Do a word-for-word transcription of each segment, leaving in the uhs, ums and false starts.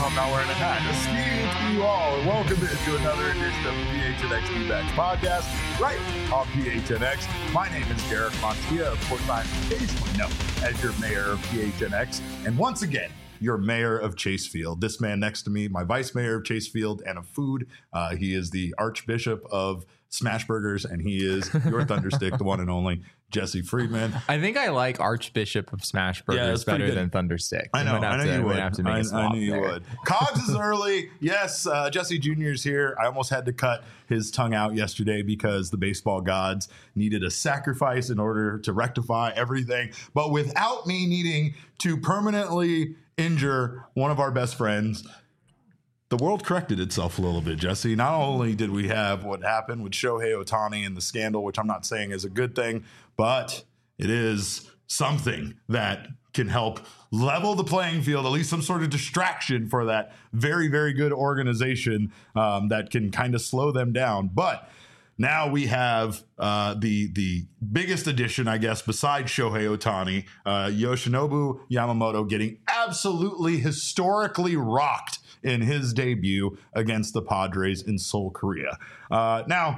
I'm not wearing a hat. Esteemed to you all, and welcome to another edition of the P H N X D-Backs podcast, right on P H N X. My name is Garrett Montilla. Of course, I'm occasionally known as your mayor of P H N X, and once again, your mayor of Chasefield. This man next to me, my vice mayor of Chasefield and of food. Uh, he is the Archbishop of Smash Burgers, and he is your Thunderstick, the one and only Jesse Friedman. I think I like Archbishop of Smash Burgers yeah, better than Thunderstick. I know, I know to, you would. Have to make I, a I knew you there. would. Cogs is early. Yes, uh, Jesse Junior's here. I almost had to cut his tongue out yesterday because the baseball gods needed a sacrifice in order to rectify everything. But without me needing to permanently injure one of our best friends, the world corrected itself a little bit, Jesse. Not only did we have what happened with Shohei Ohtani and the scandal, which I'm not saying is a good thing, but it is something that can help level the playing field, at least some sort of distraction for that very, very good organization um, that can kind of slow them down. But now we have uh, the the biggest addition, I guess, besides Shohei Ohtani, uh, Yoshinobu Yamamoto getting absolutely historically rocked in his debut against the Padres in Seoul, Korea. Uh, now,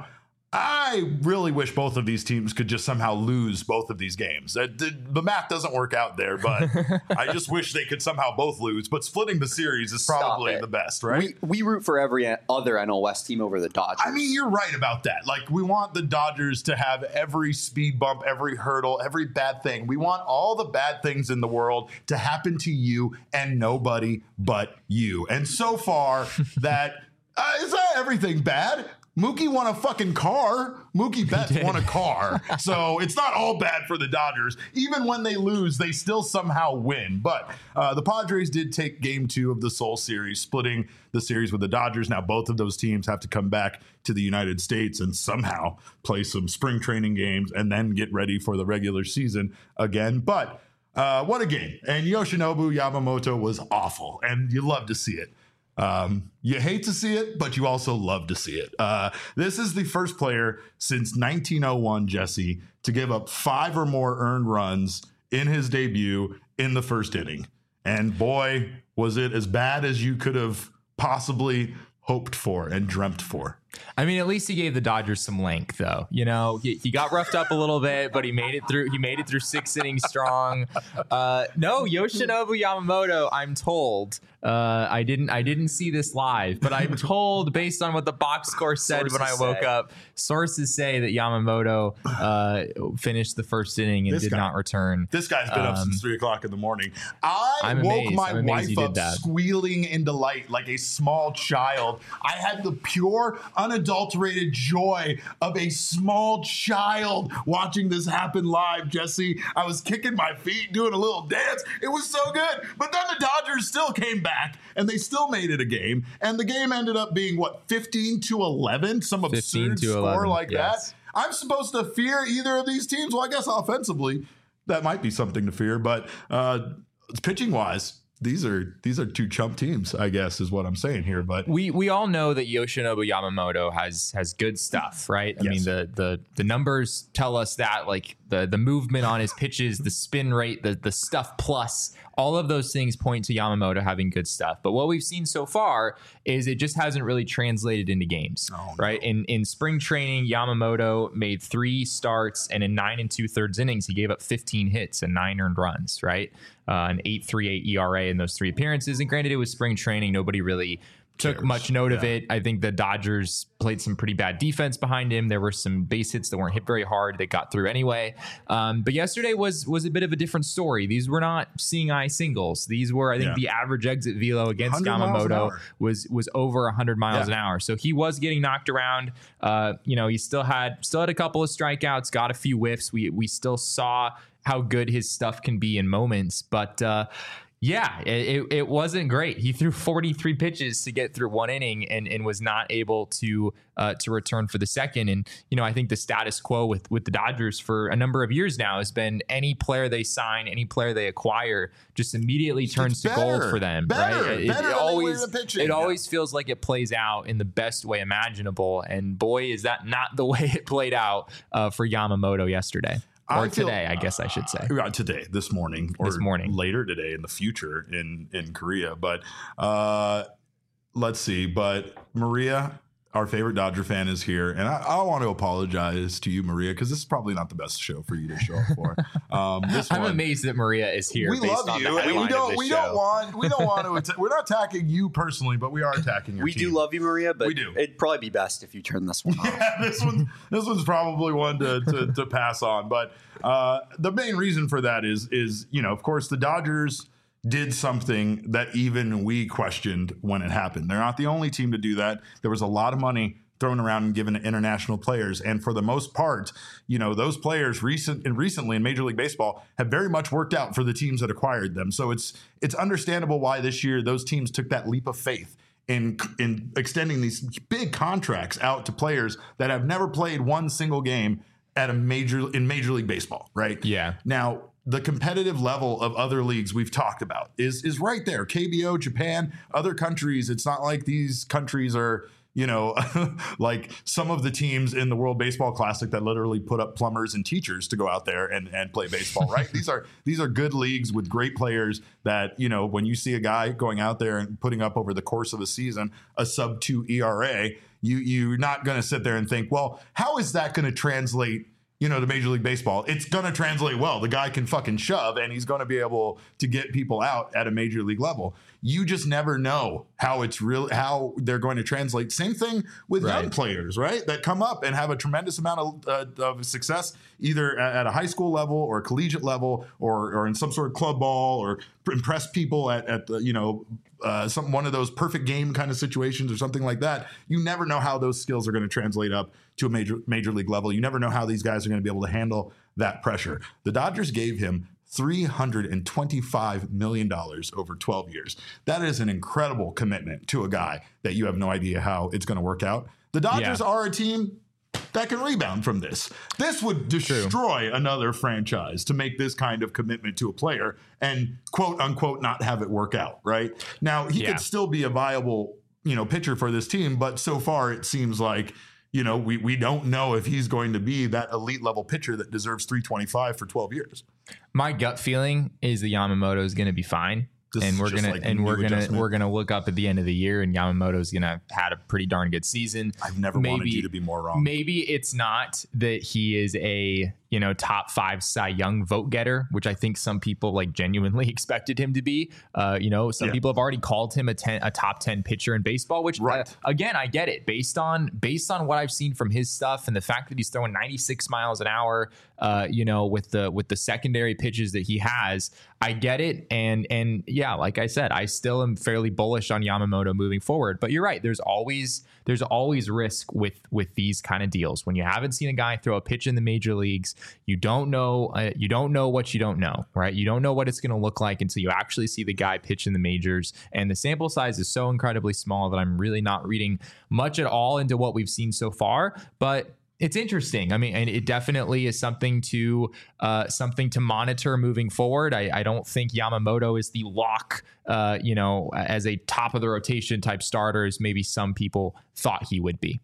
I really wish both of these teams could just somehow lose both of these games. Uh, the, the math doesn't work out there, but I just wish they could somehow both lose. But splitting the series is probably the best, right? We, we root for every other N L West team over the Dodgers. I mean, you're right about that. Like, we want the Dodgers to have every speed bump, every hurdle, every bad thing. We want all the bad things in the world to happen to you and nobody but you. And so far, that uh, is that everything bad? Mookie won a fucking car. Mookie Betts won a car. So it's not all bad for the Dodgers. Even when they lose, they still somehow win. But uh, the Padres did take game two of the Seoul series, splitting the series with the Dodgers. Now both of those teams have to come back to the United States and somehow play some spring training games and then get ready for the regular season again. But uh, what a game. And Yoshinobu Yamamoto was awful. And you love to see it. Um, you hate to see it, but you also love to see it. Uh, this is the first player since nineteen oh one, Jesse, to give up five or more earned runs in his debut in the first inning. And boy, was it as bad as you could have possibly hoped for and dreamt for. I mean, at least he gave the Dodgers some length, though. You know, he, he got roughed up a little bit, but he made it through. He made it through six innings strong. Uh, no, Yoshinobu Yamamoto, I'm told. Uh, I didn't. I didn't see this live, but I'm told, based on what the box score said sources when I woke say. up, sources say that Yamamoto uh, finished the first inning and This did guy. not return. This guy's been Um, up since three o'clock in the morning. I I'm woke amazed. my I'm amazed wife you up did that. squealing in delight like a small child. I had the pure, unadulterated joy of a small child watching this happen live, Jesse. I was kicking my feet, doing a little dance. It was so good. But then the Dodgers still came back, and they still made it a game. And the game ended up being, what, fifteen to eleven? Some absurd to score eleven, like yes. that. I'm supposed to fear either of these teams? Well, I guess offensively, that might be something to fear. But uh, pitching-wise, these are these are two chump teams, I guess, is what I'm saying here. But we we all know that Yoshinobu Yamamoto has has good stuff, right? I Yes. mean, the the the numbers tell us that, like the the movement on his pitches, the spin rate, the the stuff plus, all of those things point to Yamamoto having good stuff. But what we've seen so far is it just hasn't really translated into games, Oh, right? no. In in spring training, Yamamoto made three starts, and in nine and two thirds innings, he gave up fifteen hits and nine earned runs, right? Uh, an eight point three eight E R A in those three appearances. And granted, it was spring training. Nobody really took Cares. much note of Yeah. it. I think the Dodgers played some pretty bad defense behind him. There were some base hits that weren't hit very hard. They got through anyway. Um, but yesterday was was a bit of a different story. These were not seeing eye singles. These were, I think, Yeah. the average exit velo against one hundred miles an Yamamoto hour. was was over one hundred miles Yeah. an hour. So he was getting knocked around. Uh, you know, he still had still had a couple of strikeouts, got a few whiffs. We we still saw how good his stuff can be in moments, but uh, yeah, it, it wasn't great. He threw forty-three pitches to get through one inning and, and was not able to uh, to return for the second. And, you know, I think the status quo with, with the Dodgers for a number of years now has been any player they sign, any player they acquire just immediately turns to gold for them. Better, right? It, better it than always, they were pitching. it always feels like it plays out in the best way imaginable. And boy, is that not the way it played out uh, for Yamamoto yesterday. or I feel, today, I guess I should say. Uh, today, this morning, or This morning. later today in the future in in Korea. But uh, let's see. But Maria, our favorite Dodger fan, is here, and I, I want to apologize to you, Maria, because this is probably not the best show for you to show up for. Um, this I'm one, amazed that Maria is here. we based love on you, the and we headline of don't. this We show. don't want. We don't want to. Atta- we're not attacking you personally, but we are attacking your We team. do love you, Maria, but We do. it'd probably be best if you turn this one off. Yeah, this one, this one's probably one to, to, to pass on. But uh, the main reason for that is, is you know, of course, the Dodgers did something that even we questioned when it happened. They're not the only team to do that. There was a lot of money thrown around and given to international players, and for the most part, you know, those players recent and recently in Major League Baseball have very much worked out for the teams that acquired them. So it's it's understandable why this year those teams took that leap of faith in in extending these big contracts out to players that have never played one single game at a major in Major League Baseball, right? Yeah. Now, the competitive level of other leagues we've talked about is is right there. K B O, Japan, other countries. It's not like these countries are, you know, like some of the teams in the World Baseball Classic that literally put up plumbers and teachers to go out there and, and play baseball, right? These are these are good leagues with great players that, you know, when you see a guy going out there and putting up over the course of a season a sub two E R A, you you're not going to sit there and think, well, how is that going to translate, you know, to Major League Baseball? It's going to translate well. The guy can fucking shove and he's going to be able to get people out at a major league level. You just never know how it's real, how they're going to translate. Same thing with Right. young players, right? That come up and have a tremendous amount of, uh, of success, either at, at a high school level or collegiate level, or, or in some sort of club ball, or impress people at, at the, you know, uh, some one of those perfect game kind of situations or something like that. You never know how those skills are going to translate up to a major major league level. You never know how these guys are going to be able to handle that pressure. The Dodgers gave him three hundred twenty-five million dollars over twelve years. That is an incredible commitment to a guy that you have no idea how it's going to work out. The Dodgers Yeah. are a team that can rebound from this. This would destroy another franchise to make this kind of commitment to a player and quote unquote not have it work out, right? Now, he Yeah. could still be a viable, you know, pitcher for this team, but so far it seems like, you know, we we don't know if he's going to be that elite level pitcher that deserves three twenty-five for twelve years. My gut feeling is that Yamamoto is going to be fine. This and is we're just gonna like and new we're gonna adjustment. we're gonna look up at the end of the year, and Yamamoto's gonna had a pretty darn good season. I've never wanted you to be more wrong. Maybe it's not that he is a, you know, top five Cy Young vote getter, which I think some people like genuinely expected him to be. Uh, you know, some Yeah. people have already called him a ten, a top ten pitcher in baseball. Which, Right. uh, again, I get it based on based on what I've seen from his stuff and the fact that he's throwing ninety-six miles an hour. Uh, you know, with the with the secondary pitches that he has, I get it. And and yeah, like I said, I still am fairly bullish on Yamamoto moving forward. But you're right. There's always there's always risk with with these kind of deals. When you haven't seen a guy throw a pitch in the major leagues, you don't know uh, you don't know what you don't know, right? You don't know what it's going to look like until you actually see the guy pitch in the majors. And the sample size is so incredibly small that I'm really not reading much at all into what we've seen so far. But it's interesting. I mean, and it definitely is something to uh, something to monitor moving forward. I, I don't think Yamamoto is the lock, uh, you know, as a top of the rotation type starter as maybe some people thought he would be.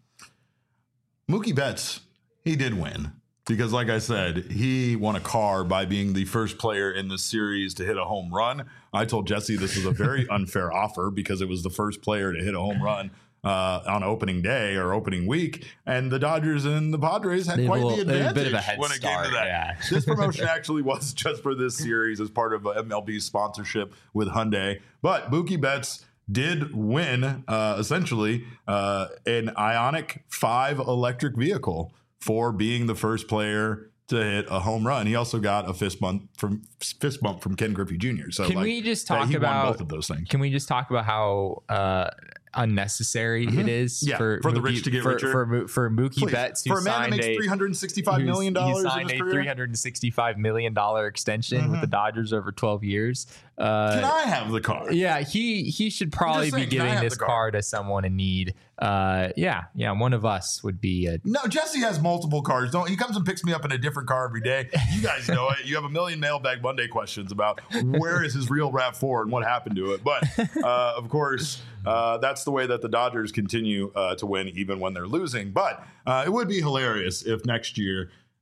Mookie Betts, he did win because, like I said, he won a car by being the first player in the series to hit a home run. I told Jesse this was a very unfair offer because it was the first player to hit a home run Uh, on opening day or opening week, and the Dodgers and the Padres had They had quite a the little- they had a advantage bit of a head when it came start, to that. yeah. This promotion actually was just for this series as part of M L B's sponsorship with Hyundai, but Mookie Betts did win uh, essentially uh, an Ioniq five electric vehicle for being the first player to hit a home run. He also got a fist bump from fist bump from Ken Griffey Junior So Can like, we just that talk he won about both of those things? Can we just talk about how uh, unnecessary it is Yeah, for for the Mookie- rich to get for, richer. for, Mo- for Mookie Please. Betts, who For a man that signed makes a three hundred sixty-five who's- million he dollars in signed his a career. three hundred sixty-five million dollars extension Mm-hmm. with the Dodgers over twelve years. Uh, Can I have the car? yeah, he he should probably saying, be can I giving have this the car? car to someone in need. Uh, yeah, yeah, one of us would be a No, Jesse has multiple cars. Don't he comes and picks me up in a different car every day. You guys know it. You have a million mailbag Monday questions about where is his real RAV four and what happened to it. But uh, of course, uh, that's the way that the Dodgers continue uh, to win even when they're losing. But uh, it would be hilarious if next year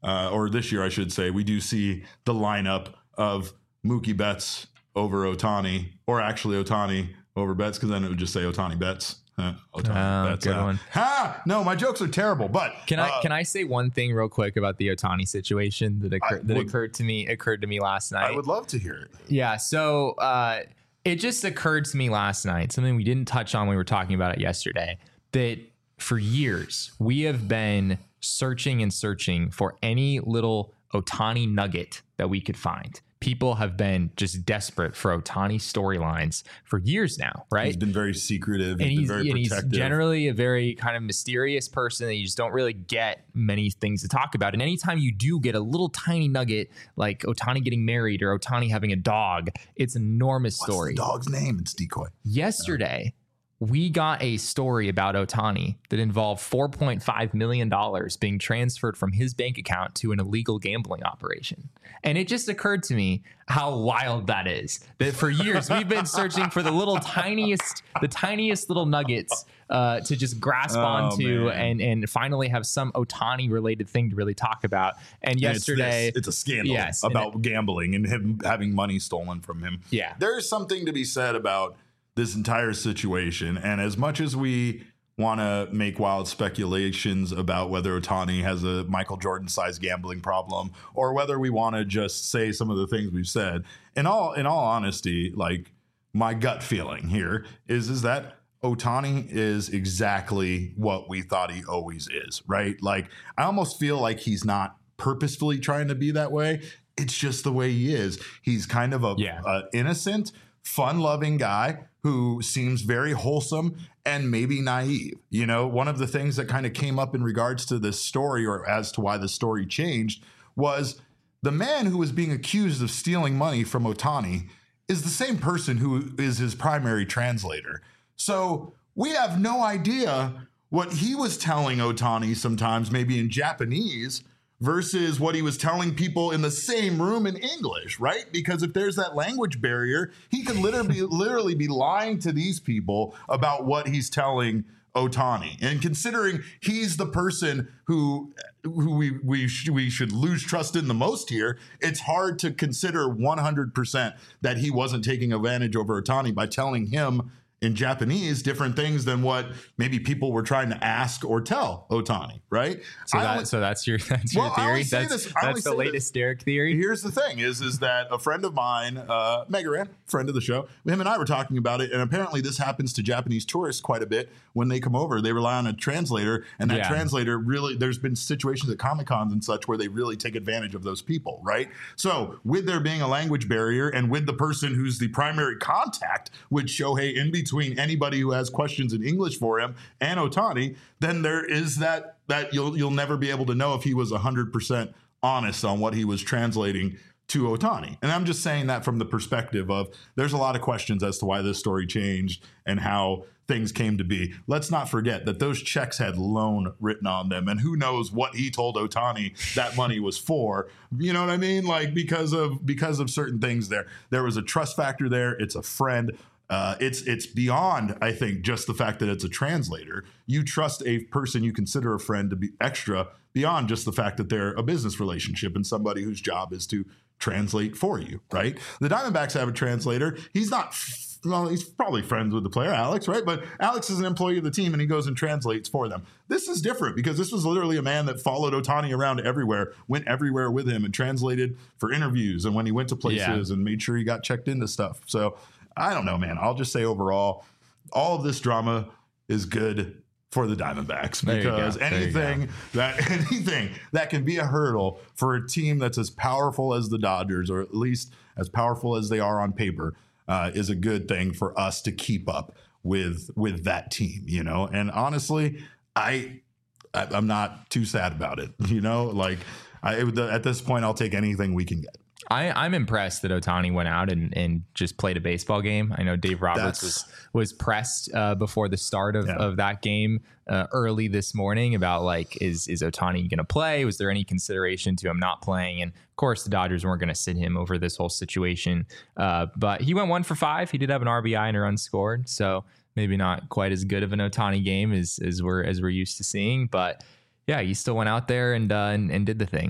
uh, or this year, I should say, we do see the lineup of Mookie Betts over Ohtani, or actually Ohtani over Betts, because then it would just say Ohtani Betts. Huh, Ohtani Oh, Betts. good uh, one. Ha! No, my jokes are terrible. But Can I uh, can I say one thing real quick about the Ohtani situation that occurred, that would- occurred to me occurred to me last night? I would love to hear it. Yeah. So uh, it just occurred to me last night, something we didn't touch on when we were talking about it yesterday, that for years we have been searching and searching for any little Ohtani nugget that we could find. People have been just desperate for Ohtani storylines for years now, right? He's been very secretive. and He's he's, been very and he's protective. generally a very kind of mysterious person that you just don't really get many things to talk about. And anytime you do get a little tiny nugget like Ohtani getting married or Ohtani having a dog, it's an enormous What's story. the dog's name? It's Decoy. Yesterday, we got a story about Ohtani that involved four point five million dollars being transferred from his bank account to an illegal gambling operation. And it just occurred to me how wild that is. That for years we've been searching for the little tiniest, the tiniest little nuggets uh, to just grasp Oh, onto man. and and finally have some Ohtani related thing to really talk about. And And it's yesterday, this. It's a scandal Yes, and about gambling and him having money stolen from him. Yeah. There's something to be said about this entire situation. And as much as we want to make wild speculations about whether Ohtani has a Michael Jordan sized gambling problem, or whether we want to just say some of the things we've said, in all in all honesty, like my gut feeling here is is that Ohtani is exactly what we thought he always is, right? Like I almost feel like he's not purposefully trying to be that way. It's just the way he is. He's kind of a, Yeah. a innocent, fun-loving guy who seems very wholesome and maybe naive. You know, one of the things that kind of came up in regards to this story, or as to why the story changed, was the man who was being accused of stealing money from Ohtani is the same person who is his primary translator. So we have no idea what he was telling Ohtani sometimes, maybe in Japanese, versus what he was telling people in the same room in English, right? Because if there's that language barrier, he could literally literally be lying to these people about what he's telling Ohtani. And considering he's the person who who we we sh- we should lose trust in the most here, it's hard to consider one hundred percent that he wasn't taking advantage over Ohtani by telling him in Japanese different things than what maybe people were trying to ask or tell Ohtani, right? so, I that, only- so that's your that's Well, your I theory. only say That's, this- I only that's the say latest Derek theory. Here's the thing is, is that a friend of mine, uh, Megaran, friend of the show, him and I were talking about it. And apparently this happens to Japanese tourists quite a bit when they come over. They rely on a translator, and that Yeah. translator really, there's been situations at Comic-Cons and such where they really take advantage of those people, right? So with there being a language barrier and with the person who's the primary contact with Shohei in between anybody who has questions in English for him and Ohtani, then there is that, that you'll, you'll never be able to know if he was one hundred percent honest on what he was translating to Ohtani. And I'm just saying that from the perspective of there's a lot of questions as to why this story changed and how things came to be. Let's not forget that those checks had loan written on them, and who knows what he told Ohtani that money was for. You know what I mean? Like because of because of certain things there. There was a trust factor there. It's a friend. Uh, it's it's beyond, I think, just the fact that it's a translator. You trust a person you consider a friend to be extra beyond just the fact that they're a business relationship and somebody whose job is to translate for you, right? The Diamondbacks have a translator. He's not, well, he's probably friends with the player, Alex, right? But Alex is an employee of the team and he goes and translates for them. This is different because this was literally a man that followed Ohtani around everywhere, went everywhere with him and translated for interviews and when he went to places Yeah. and made sure he got checked into stuff. So I don't know, man. I'll just say overall, all of this drama is good for the Diamondbacks There you go. because There you go. anything that anything that can be a hurdle for a team that's as powerful as the Dodgers, or at least as powerful as they are on paper, uh, is a good thing for us to keep up with with that team. You know, and honestly, I, I I'm not too sad about it. You know, like I it, at this point, I'll take anything we can get. I, I'm impressed that Ohtani went out and, and just played a baseball game. I know Dave Roberts That's- was was pressed uh, before the start of, Yeah. of that game uh, early this morning about like, is is Ohtani going to play? Was there any consideration to him not playing? And of course, the Dodgers weren't going to sit him over this whole situation. Uh, but he went one for five. He did have an R B I and a run scored, so maybe not quite as good of an Ohtani game as as we're as we're used to seeing. But yeah, he still went out there and uh, and, and did the thing.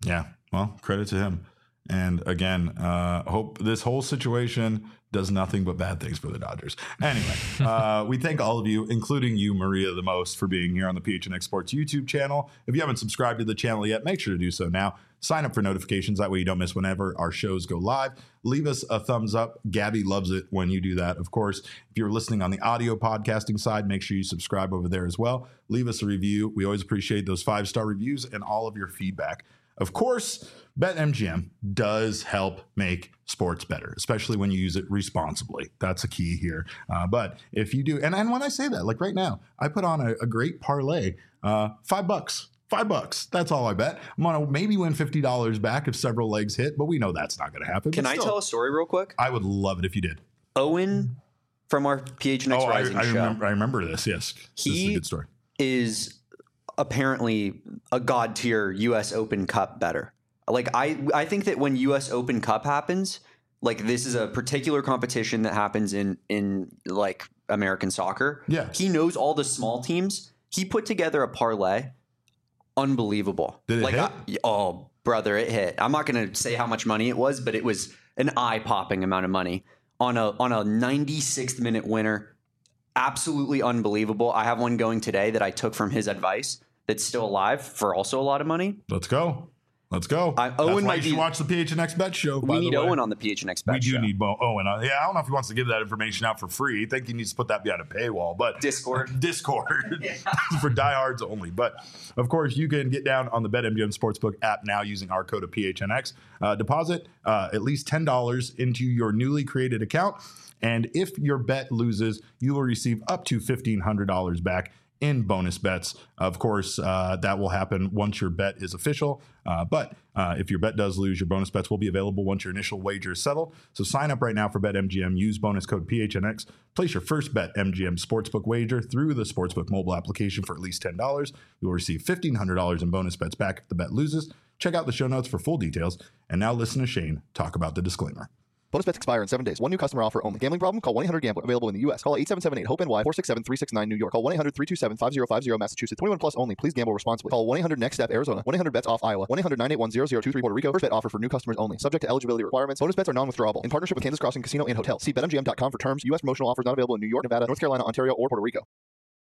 Yeah, well, credit to him. And again, uh, hope this whole situation does nothing but bad things for the Dodgers. Anyway, uh, we thank all of you, including you, Maria, the most, for being here on the P H N X Sports YouTube channel. If you haven't subscribed to the channel yet, make sure to do so now. Sign up for notifications. That way you don't miss whenever our shows go live. Leave us a thumbs up. Gabby loves it when you do that. Of course, if you're listening on the audio podcasting side, make sure you subscribe over there as well. Leave us a review. We always appreciate those five-star reviews and all of your feedback. Of course, BetMGM does help make sports better, especially when you use it responsibly. That's a key here. Uh, but if you do, and, and when I say that, like right now, I put on a, a great parlay, uh, five bucks. Five bucks. That's all I bet. I'm going to maybe win fifty dollars back if several legs hit, but we know that's not going to happen. Can But I still, tell a story real quick? I would love it if you did. Owen from our P H N X Oh, I, Rising I, show remember, I remember this. Yes. This is a He- good story. is apparently a god tier U S Open Cup better. Like I, I think that when U S Open Cup happens, like this is a particular competition that happens in in like American soccer. Yeah. He knows all the small teams. He put together a parlay. Unbelievable. Did it like, hit? I- oh, brother, it hit. I'm not going to say how much money it was, but it was an eye-popping amount of money on a on a ninety-sixth minute winner. Absolutely unbelievable. I have one going today that I took from his advice that's still alive for also a lot of money. Let's go. Let's go. I- That's Owen why might you should be- watch the P H N X Bet Show. By We the need way. Owen on the P H N X Bet We do show. need Bo Owen. Uh, yeah, I don't know if he wants to give that information out for free. I think he needs to put that behind a paywall. But Discord. Discord for diehards only. But of course, you can get down on the BetMGM Sportsbook app now using our code of P H N X. Uh, deposit uh, at least ten dollars into your newly created account. And if your bet loses, you will receive up to fifteen hundred dollars back in bonus bets. Of course, uh, that will happen once your bet is official. Uh, but uh, if your bet does lose, your bonus bets will be available once your initial wager is settled. So sign up right now for BetMGM. Use bonus code P H N X. Place your first BetMGM Sportsbook wager through the Sportsbook mobile application for at least ten dollars. You will receive fifteen hundred dollars in bonus bets back if the bet loses. Check out the show notes for full details. And now listen to Shane talk about the disclaimer. Bonus bets expire in seven days. One new customer offer only. Gambling problem? Call one eight hundred gambler. Available in the U S. Call eight seven seven eight hope N Y four six seven three six nine New York. Call one eight hundred three two seven five zero five zero Massachusetts. twenty-one plus only. Please gamble responsibly. Call one eight hundred next step Arizona. one eight hundred bets off Iowa. one eight hundred nine eight one zero zero two three Puerto Rico. First bet offer for new customers only. Subject to eligibility requirements. Bonus bets are non-withdrawable. In partnership with Kansas Crossing Casino and Hotel. See bet M G M dot com for terms. U S promotional offers not available in New York, Nevada, North Carolina, Ontario, or Puerto Rico.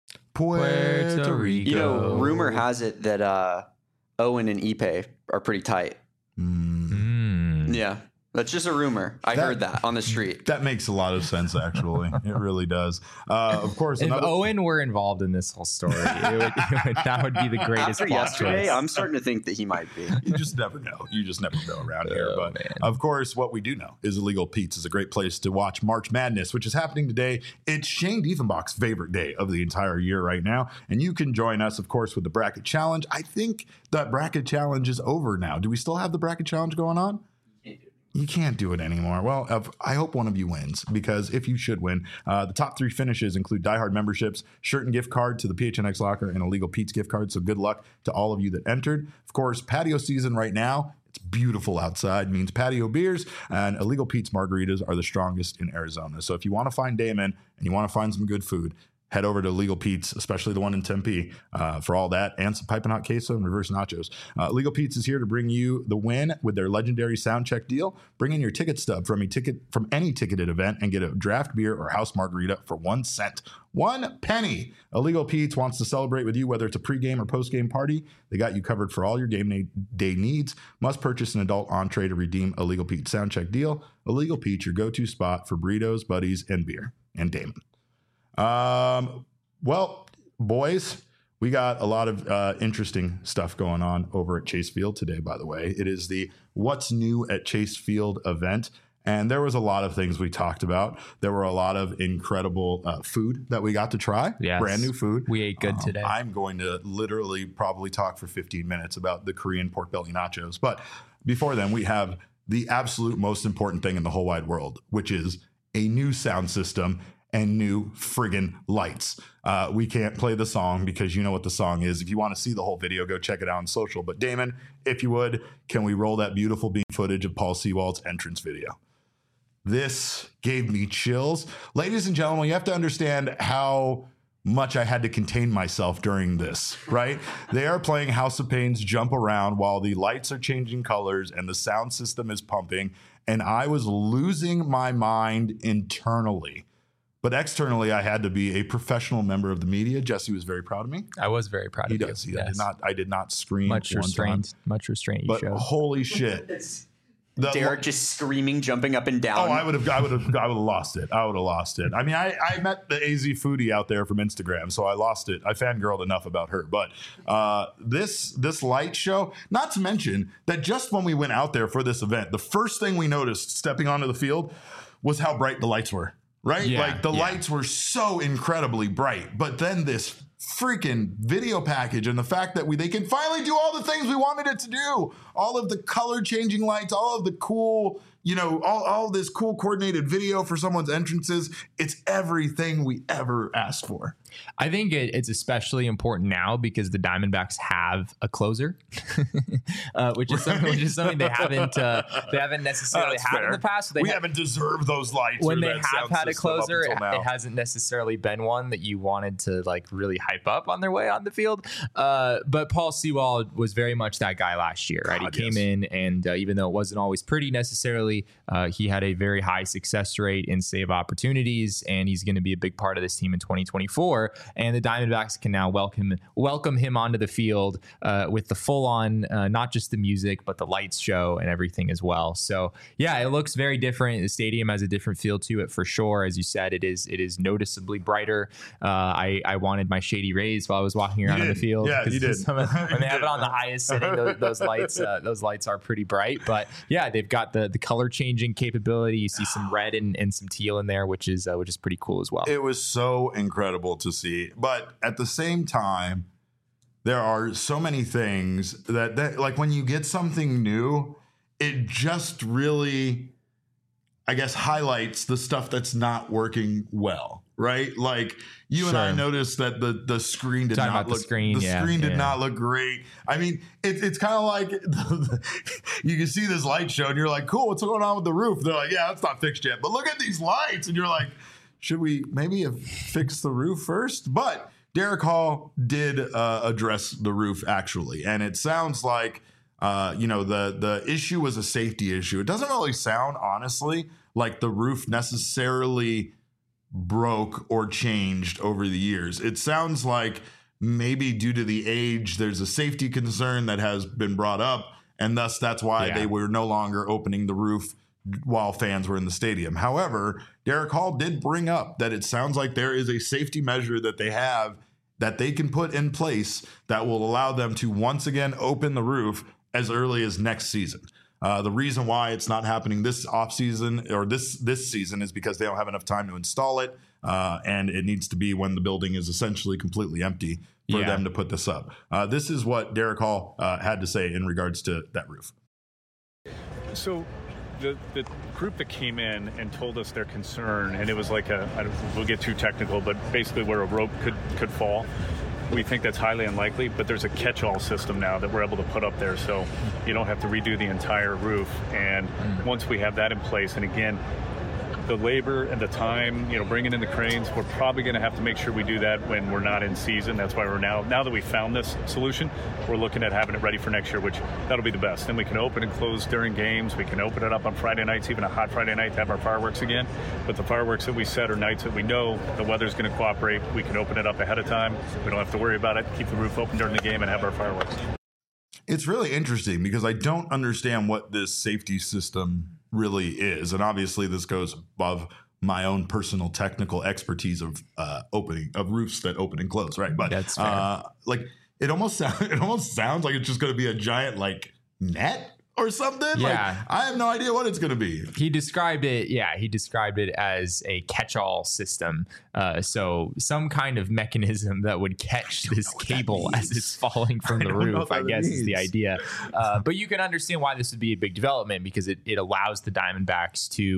Puerto Rico. You know, rumor has it that uh, Owen and Ipe are pretty tight. Mm. Mm. Yeah. That's just a rumor. I That- heard that on the street. That makes a lot of sense, actually. It really does. Uh, of course, If another. Owen were involved in this whole story, it would, it would, that would be the greatest After plot yesterday, twist. I'm starting to think that he might be. You just never know. You just never know around here. Oh, But man. of course, what we do know is Illegal Pete's is a great place to watch March Madness, which is happening today. It's Shane Diefenbach's favorite day of the entire year right now. And you can join us, of course, with the Bracket Challenge. I think that Bracket Challenge is over now. Do we still have the Bracket Challenge going on? You can't do it anymore. Well, uh, I hope one of you wins, because if you should win, uh, the top three finishes include diehard memberships, shirt and gift card to the P H N X Locker, and Illegal Pete's gift card. So good luck to all of you that entered. Of course, patio season right now. It's beautiful outside, means patio beers, and Illegal Pete's margaritas are the strongest in Arizona. So if you want to find Damon and you want to find some good food, head over to Legal Pete's, especially the one in Tempe, uh, for all that, and some piping hot queso and reverse nachos. Uh, Legal Pete's is here to bring you the win with their legendary sound check deal. Bring in your ticket stub from a ticket from any ticketed event and get a draft beer or house margarita for one cent. One penny. Illegal Pete's wants to celebrate with you, whether it's a pregame or postgame party. They got you covered for all your game na- day needs. Must purchase an adult entree to redeem a Legal Pete's sound check deal. Illegal Pete's, your go-to spot for burritos, buddies, and beer. And Damon. Um, well, boys, we got a lot of uh, interesting stuff going on over at Chase Field today, by the way. It is the What's New at Chase Field event. And there was a lot of things we talked about. There were a lot of incredible uh, food that we got to try. Yes. Brand new food. We ate good Um, today. I'm going to literally probably talk for fifteen minutes about the Korean pork belly nachos. But before then, we have the absolute most important thing in the whole wide world, which is a new sound system and new friggin' lights. Uh, we can't play the song because you know what the song is. If you want to see the whole video, go check it out on social. But Damon, if you would, can we roll that beautiful beam footage of Paul Sewald's entrance video? This gave me chills. Ladies and gentlemen, you have to understand how much I had to contain myself during this, right? They are playing House of Pain's Jump Around while the lights are changing colors and the sound system is pumping. And I was losing my mind internally. But externally, I had to be a professional member of the media. Jesse was very proud of me. I was very proud He of you. does. He Yes. did not. I did not scream Much one restraint. time. Much restraint you But showed. holy shit. The- Derek just screaming, jumping up and down. Oh, I would have, I would have, I would have lost it. I would have lost it. I mean, I, I met the A Z foodie out there from Instagram, so I lost it. I fangirled enough about her, but uh, this this light show. Not to mention that just when we went out there for this event, the first thing we noticed stepping onto the field was how bright the lights were. Right, Yeah, like the yeah. lights were so incredibly bright, but then this freaking video package and the fact that we they can finally do all the things we wanted it to do, all of the color changing lights, all of the cool, you know, all, all this cool coordinated video for someone's entrances. It's everything we ever asked for. I think it, it's especially important now because the Diamondbacks have a closer, uh, which is something, which is something they haven't uh, they haven't necessarily That's had fair. in the past. They we ha- haven't deserved those lights. when or they that have sound had a system up closer, it, until now. it hasn't necessarily been one that you wanted to like really hype up on their way on the field. Uh, but Paul Sewald was very much that guy last year, right? God, he came yes. in, and uh, even though it wasn't always pretty necessarily, uh, he had a very high success rate in save opportunities, and he's going to be a big part of this team in twenty twenty-four. And the Diamondbacks can now welcome welcome him onto the field uh, with the full on, uh, not just the music, but the lights show and everything as well. So yeah, it looks very different. The stadium has a different feel to it for sure. As you said, it is it is noticeably brighter. Uh, I I wanted my Shady Rays while I was walking around on the did. field. Yeah, 'cause you did. some of- when You they have did. it on the highest setting, those, those lights uh, those lights are pretty bright. But yeah, they've got the the color changing capability. You see some red and, and some teal in there, which is uh, which is pretty cool as well. It was so incredible to see. But at the same time, there are so many things that, that like when you get something new, it just really, I guess, highlights the stuff that's not working well, right? Like you and I Sure. noticed that the the screen did Talking not about the look screen, the yeah, screen did yeah. not look great. I mean, it, it's kind of like you can see this light show and you're like, cool, what's going on with the roof? They're like, yeah, that's not fixed yet, but look at these lights, and you're like, should we maybe have fixed the roof first? But Derek Hall did uh, address the roof actually, and it sounds like uh, you know the the issue was a safety issue. It doesn't really sound honestly like the roof necessarily broke or changed over the years. It sounds like maybe due to the age, there's a safety concern that has been brought up, and thus that's why Yeah. they were no longer opening the roof while fans were in the stadium. However, Derek Hall did bring up that it sounds like there is a safety measure that they have that they can put in place that will allow them to once again open the roof as early as next season. Uh, the reason why it's not happening this offseason or this this season is because they don't have enough time to install it, uh, and it needs to be when the building is essentially completely empty for Yeah. them to put this up. Uh, this is what Derek Hall uh, had to say in regards to that roof. So the the group that came in and told us their concern, and it was like a, I don't, we'll get too technical, but basically where a rope could, could fall. We think that's highly unlikely, but there's a catch-all system now that we're able to put up there, so you don't have to redo the entire roof. And once we have that in place, and again, the labor and the time, you know, bringing in the cranes, we're probably going to have to make sure we do that when we're not in season. That's why we're now, now that we found this solution, we're looking at having it ready for next year, which that'll be the best. Then we can open and close during games. We can open it up on Friday nights, even a hot Friday night, to have our fireworks again. But the fireworks that we set are nights that we know the weather's going to cooperate. We can open it up ahead of time. We don't have to worry about it. Keep the roof open during the game and have our fireworks. It's really interesting because I don't understand what this safety system really is. And obviously this goes above my own personal technical expertise of uh, opening of roofs that open and close. Right. But That's fair. uh, like it almost sounds, it almost sounds like it's just going to be a giant like net or something. Yeah. Like, I have no idea what it's going to be. He described it, yeah, he described it as a catch-all system. Uh, so some kind of mechanism that would catch this what that cable as means. it's falling from I the don't know roof, what I that guess is the means. idea. Uh, but you can understand why this would be a big development because it, it allows the Diamondbacks to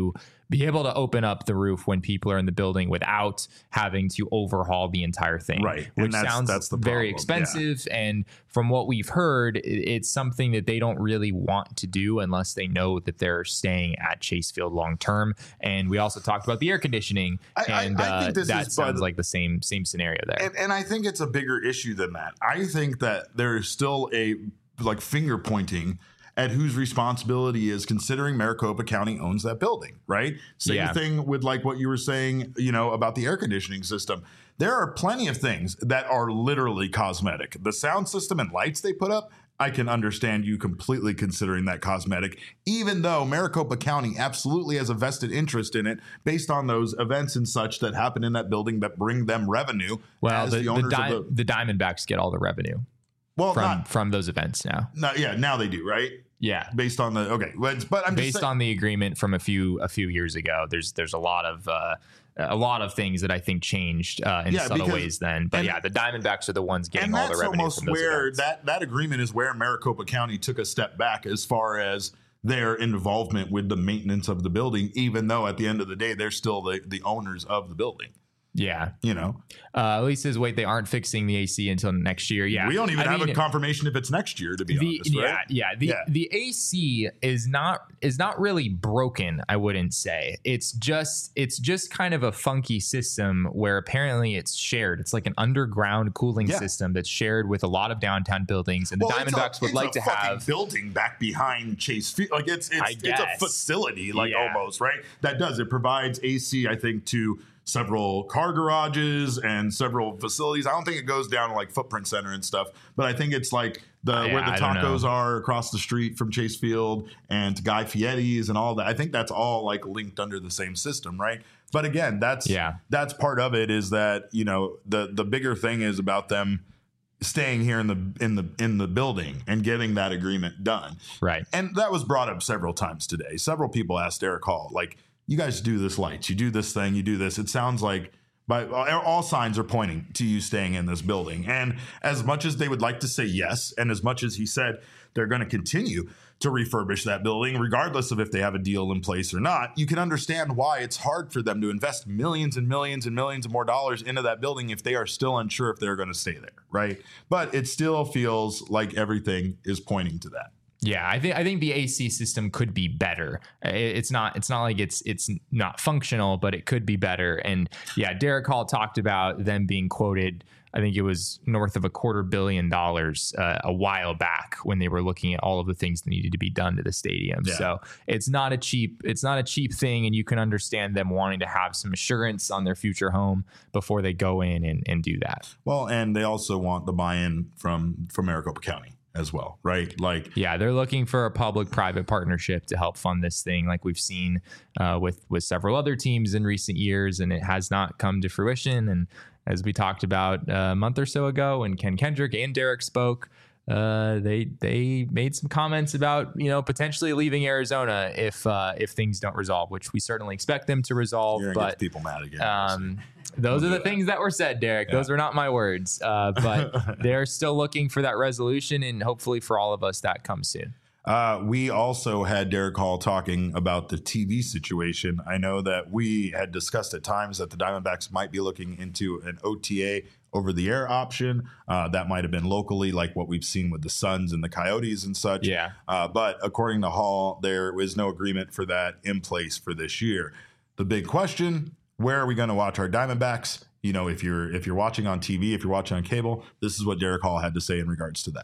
be able to open up the roof when people are in the building without having to overhaul the entire thing. Right. And Which that's- sounds that's the very problem. expensive. And from what we've heard, it- it's something that they don't really want to do unless they know that they're staying at Chase Field long term. And we also talked about the air conditioning, I- I- and I think uh, this that is- sounds but- like the same same scenario there. And, and I think it's a bigger issue than that. I think that there is still a like finger pointing at whose responsibility is, considering Maricopa County owns that building, right? Same Yeah. thing with like what you were saying, you know, about the air conditioning system. There are plenty of things that are literally cosmetic. The sound system and lights they put up, I can understand you completely considering that cosmetic, even though Maricopa County absolutely has a vested interest in it based on those events and such that happen in that building that bring them revenue. Well, as the, the, the, owners Di- of the, the Diamondbacks get all the revenue well, from not, from those events now. not, yeah, now they do, right? Yeah. Based on the, okay, but, but I'm just Based saying, on the agreement from a few a few years ago, there's there's a lot of uh, a lot of things that I think changed uh, in Yeah, subtle because- ways then. But and- yeah, the Diamondbacks are the ones getting and all the that's revenue almost from those where events. that, that agreement is where Maricopa County took a step back as far as their involvement with the maintenance of the building, even though at the end of the day, they're still the, the owners of the building, Yeah. you know? Uh, Elise says, wait, they aren't fixing the A C until next year. Yeah. We don't even I have mean, a confirmation if it's next year, to be the, honest, yeah, right? yeah. The Yeah. the A C is not is not really broken, I wouldn't say. It's just it's just kind of a funky system where apparently it's shared. It's like an underground cooling Yeah. system that's shared with a lot of downtown buildings, and the Well, it's a- Diamondbacks would it's like a to fucking have building back behind Chase Field. Like it's it's I it's a guess. facility, like Yeah. almost, right? That does it provides A C, I think, to several car garages and several facilities. I don't think it goes down to like Footprint Center and stuff, but I think it's like the Uh, yeah, where the I don't tacos know. are across the street from Chase Field and to Guy Fieri's and all that. I think that's all like linked under the same system, right? But again, that's Yeah. that's part of it, is that, you know, the the bigger thing is about them staying here in the in the in the building and getting that agreement done. right. And that was brought up several times today. Several people asked Eric Hall, like, you guys do this lights, you do this thing, you do this. It sounds like by all signs are pointing to you staying in this building. And as much as they would like to say yes, and as much as he said they're going to continue to refurbish that building, regardless of if they have a deal in place or not, you can understand why it's hard for them to invest millions and millions and millions of more dollars into that building if they are still unsure if they're going to stay there, right? But it still feels like everything is pointing to that. Yeah, I think I think the A C system could be better. It- It's not it's not like it's it's not functional, but it could be better. And yeah, Derek Hall talked about them being quoted, I think it was north of a quarter billion dollars uh, a while back when they were looking at all of the things that needed to be done to the stadium. Yeah. So it's not a cheap it's not a cheap thing, and you can understand them wanting to have some assurance on their future home before they go in and, and do that. Well, and they also want the buy-in from from Maricopa County as well, right? Like, Yeah, they're looking for a public-private partnership to help fund this thing, like we've seen uh, with with several other teams in recent years, and it has not come to fruition. And as we talked about uh, a month or so ago, when Ken Kendrick and Derek spoke, uh, they they made some comments about, you know, potentially leaving Arizona if uh, if things don't resolve, which we certainly expect them to resolve. you're gonna But get people mad again. um, those are the things that were said, Derek. Those were not my words. Uh, but they're still looking for that resolution, and hopefully for all of us, that comes soon. Uh, we also had Derek Hall talking about the T V situation. I know that we had discussed at times that the Diamondbacks might be looking into an O T A over the air option. Uh, that might have been locally, like what we've seen with the Suns and the Coyotes and such. Yeah. Uh, but according to Hall, there was no agreement for that in place for this year. The big question: where are we going to watch our Diamondbacks? You know, if you're if you're watching on T V, if you're watching on cable, this is what Derek Hall had to say in regards to that.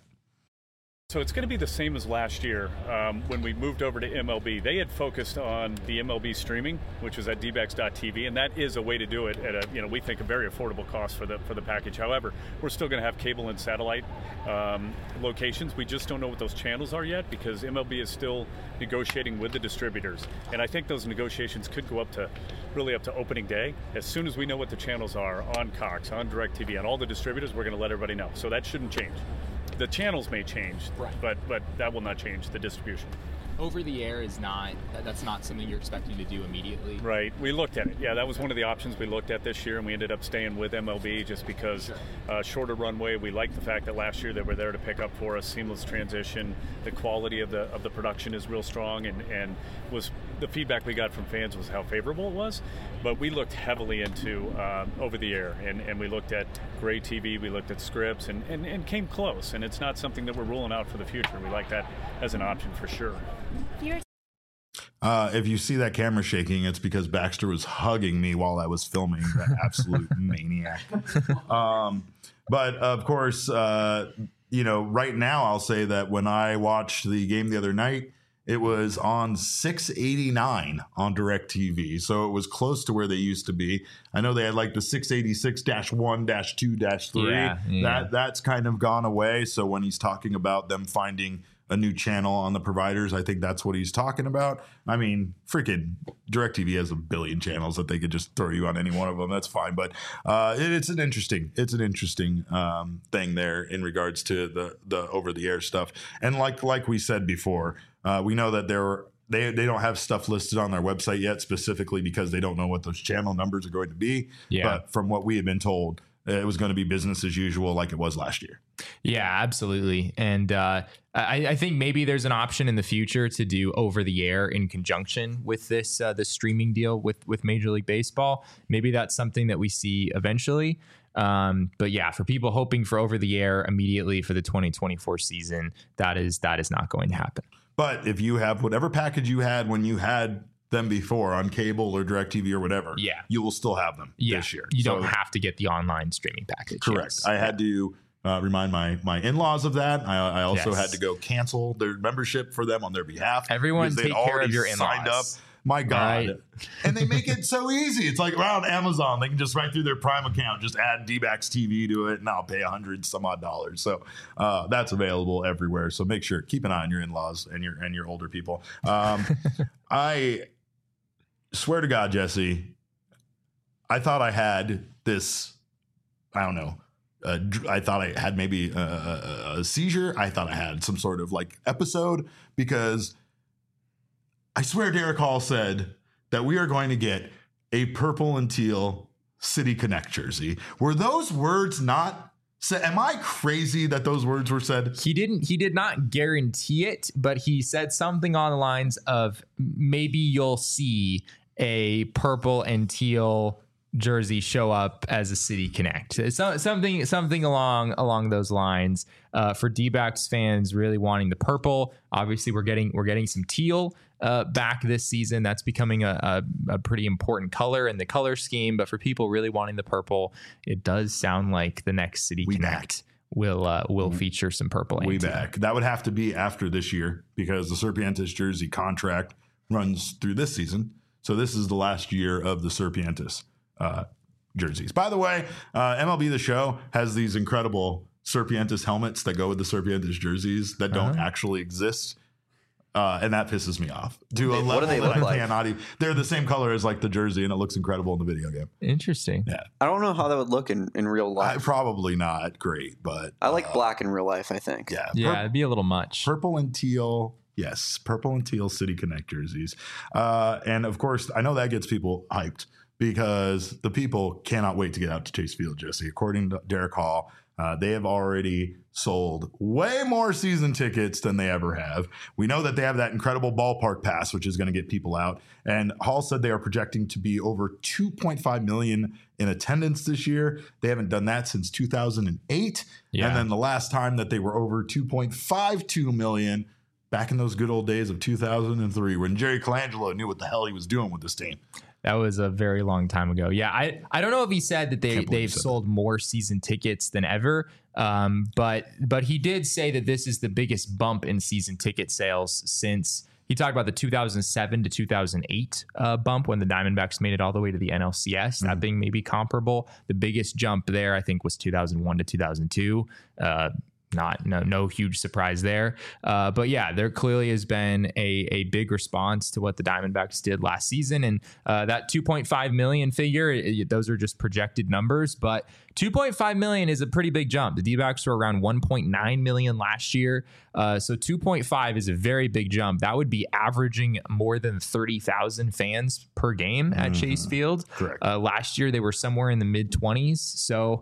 So it's going to be the same as last year um, when we moved over to M L B. They had focused on the M L B streaming, which was at d backs dot t v, and that is a way to do it at a, you know, we think a very affordable cost for the for the package. However, we're still going to have cable and satellite um, locations. We just don't know what those channels are yet because M L B is still negotiating with the distributors, and I think those negotiations could go up to really up to opening day. As soon as we know what the channels are on Cox, on DirecTV, on all the distributors, we're going to let everybody know. So that shouldn't change. The channels may change, Right. but but that will not change the distribution. Over the air is not, that- that's not something you're expecting to do immediately. Right. We looked at it. Yeah, that was one of the options we looked at this year, and we ended up staying with M L B just because uh, shorter runway. We liked the fact that last year they were there to pick up for us, seamless transition. The quality of the of the production is real strong, and, and was the feedback we got from fans was how favorable it was, but we looked heavily into uh, over the air, and, and we looked at Gray T V, we looked at scripts, and, and, and came close. And it's not something that we're ruling out for the future. We like that as an option for sure. Uh, if you see that camera shaking, it's because Baxter was hugging me while I was filming. That absolute maniac. Um, but of course, uh, you know, right now I'll say that when I watched the game the other night, it was on six eighty-nine on DirecTV, so it was close to where they used to be. I know they had like the six eighty-six dash one dash two dash three. Yeah, yeah. That that's kind of gone away. So when he's talking about them finding a new channel on the providers, I think that's what he's talking about. I mean, freaking DirecTV has a billion channels that they could just throw you on any one of them. That's fine. But uh, it, it's an interesting, it's an interesting um, thing there in regards to the the over the air stuff. And like like we said before, uh, we know that there they they don't have stuff listed on their website yet, specifically because they don't know what those channel numbers are going to be. Yeah. But from what we have been told, it was going to be business as usual, like it was last year. Yeah, absolutely. And uh, I, I think maybe there's an option in the future to do over the air in conjunction with this uh, the streaming deal with with Major League Baseball. Maybe that's something that we see eventually. Um, but yeah, for people hoping for over the air immediately for the twenty twenty-four season, that is that is not going to happen. But if you have whatever package you had when you had them before on cable or DirecTV or whatever, yeah, you will still have them yeah. this year. You So- don't have to get the online streaming package. Correct. Yes. I had to uh, remind my my in-laws of that. I, I also Yes. had to go cancel their membership for them on their behalf. Everyone because they'd take care of already your signed up. in-laws. My God. Right. And they make it so easy. It's like around Amazon. They can just right through their Prime account, just add D-Backs T V to it, and I'll pay a hundred some odd dollars. So uh, that's available everywhere. So make sure, keep an eye on your in-laws and your and your older people. Um, I swear to God, Jesse, I thought I had this, I don't know, uh, dr- I thought I had maybe a, a, a seizure. I thought I had some sort of like episode because I swear Derek Hall said that we are going to get a purple and teal City Connect jersey. Were those words not said? Am I crazy that those words were said? He didn't. He did not guarantee it, but he said something on the lines of maybe you'll see a purple and teal jersey show up as a City Connect. So, something something along along those lines. Uh, for D-backs fans really wanting the purple, obviously we're getting we're getting some teal uh, back this season. That's becoming a, a, a pretty important color in the color scheme. But for people really wanting the purple, it does sound like the next City We Connect will uh, will feature some purple. Way and teal. back. That would have to be after this year because the Serpientes jersey contract runs through this season. So this is the last year of the Serpientes uh, jerseys. By the way, uh, M L B The Show has these incredible Serpientes helmets that go with the Serpientes jerseys that don't Uh-huh. actually exist. Uh, and that pisses me off to a They- what level do they that look I like? cannot even. They're the same color as like the jersey, and it looks incredible in the video game. Interesting. Yeah, I don't know how that would look in, in real I, life. probably not great, but I like uh, black in real life, I think. Yeah, Yeah, pur- it'd be a little much. purple and teal. Yes, purple and teal City Connect jerseys. Uh, and of course, I know that gets people hyped because the people cannot wait to get out to Chase Field, Jesse. According to Derek Hall, uh, they have already sold way more season tickets than they ever have. We know that they have that incredible ballpark pass, which is going to get people out. And Hall said they are projecting to be over two point five million in attendance this year. They haven't done that since two thousand eight. Yeah. And then the last time that they were over two point five two million back in those good old days of two thousand three when Jerry Colangelo knew what the hell he was doing with this team. That was a very long time ago. Yeah, I, I don't know if he said that they Can't believe he they've said sold more season tickets than ever, um, but but he did say that this is the biggest bump in season ticket sales since he talked about the two thousand seven to two thousand eight uh, bump when the Diamondbacks made it all the way to the N L C S. Mm-hmm. That being maybe comparable. The biggest jump there, I think, was two thousand one to two thousand two. Uh, Not no no huge surprise there, uh, but yeah, there clearly has been a a big response to what the Diamondbacks did last season, and uh, that two point five million figure, it, those are just projected numbers, but two point five million is a pretty big jump. The D-backs were around one point nine million last year, uh, so two point five is a very big jump. That would be averaging more than thirty thousand fans per game at Chase Field. Correct. Uh, last year they were somewhere in the mid twenties, so.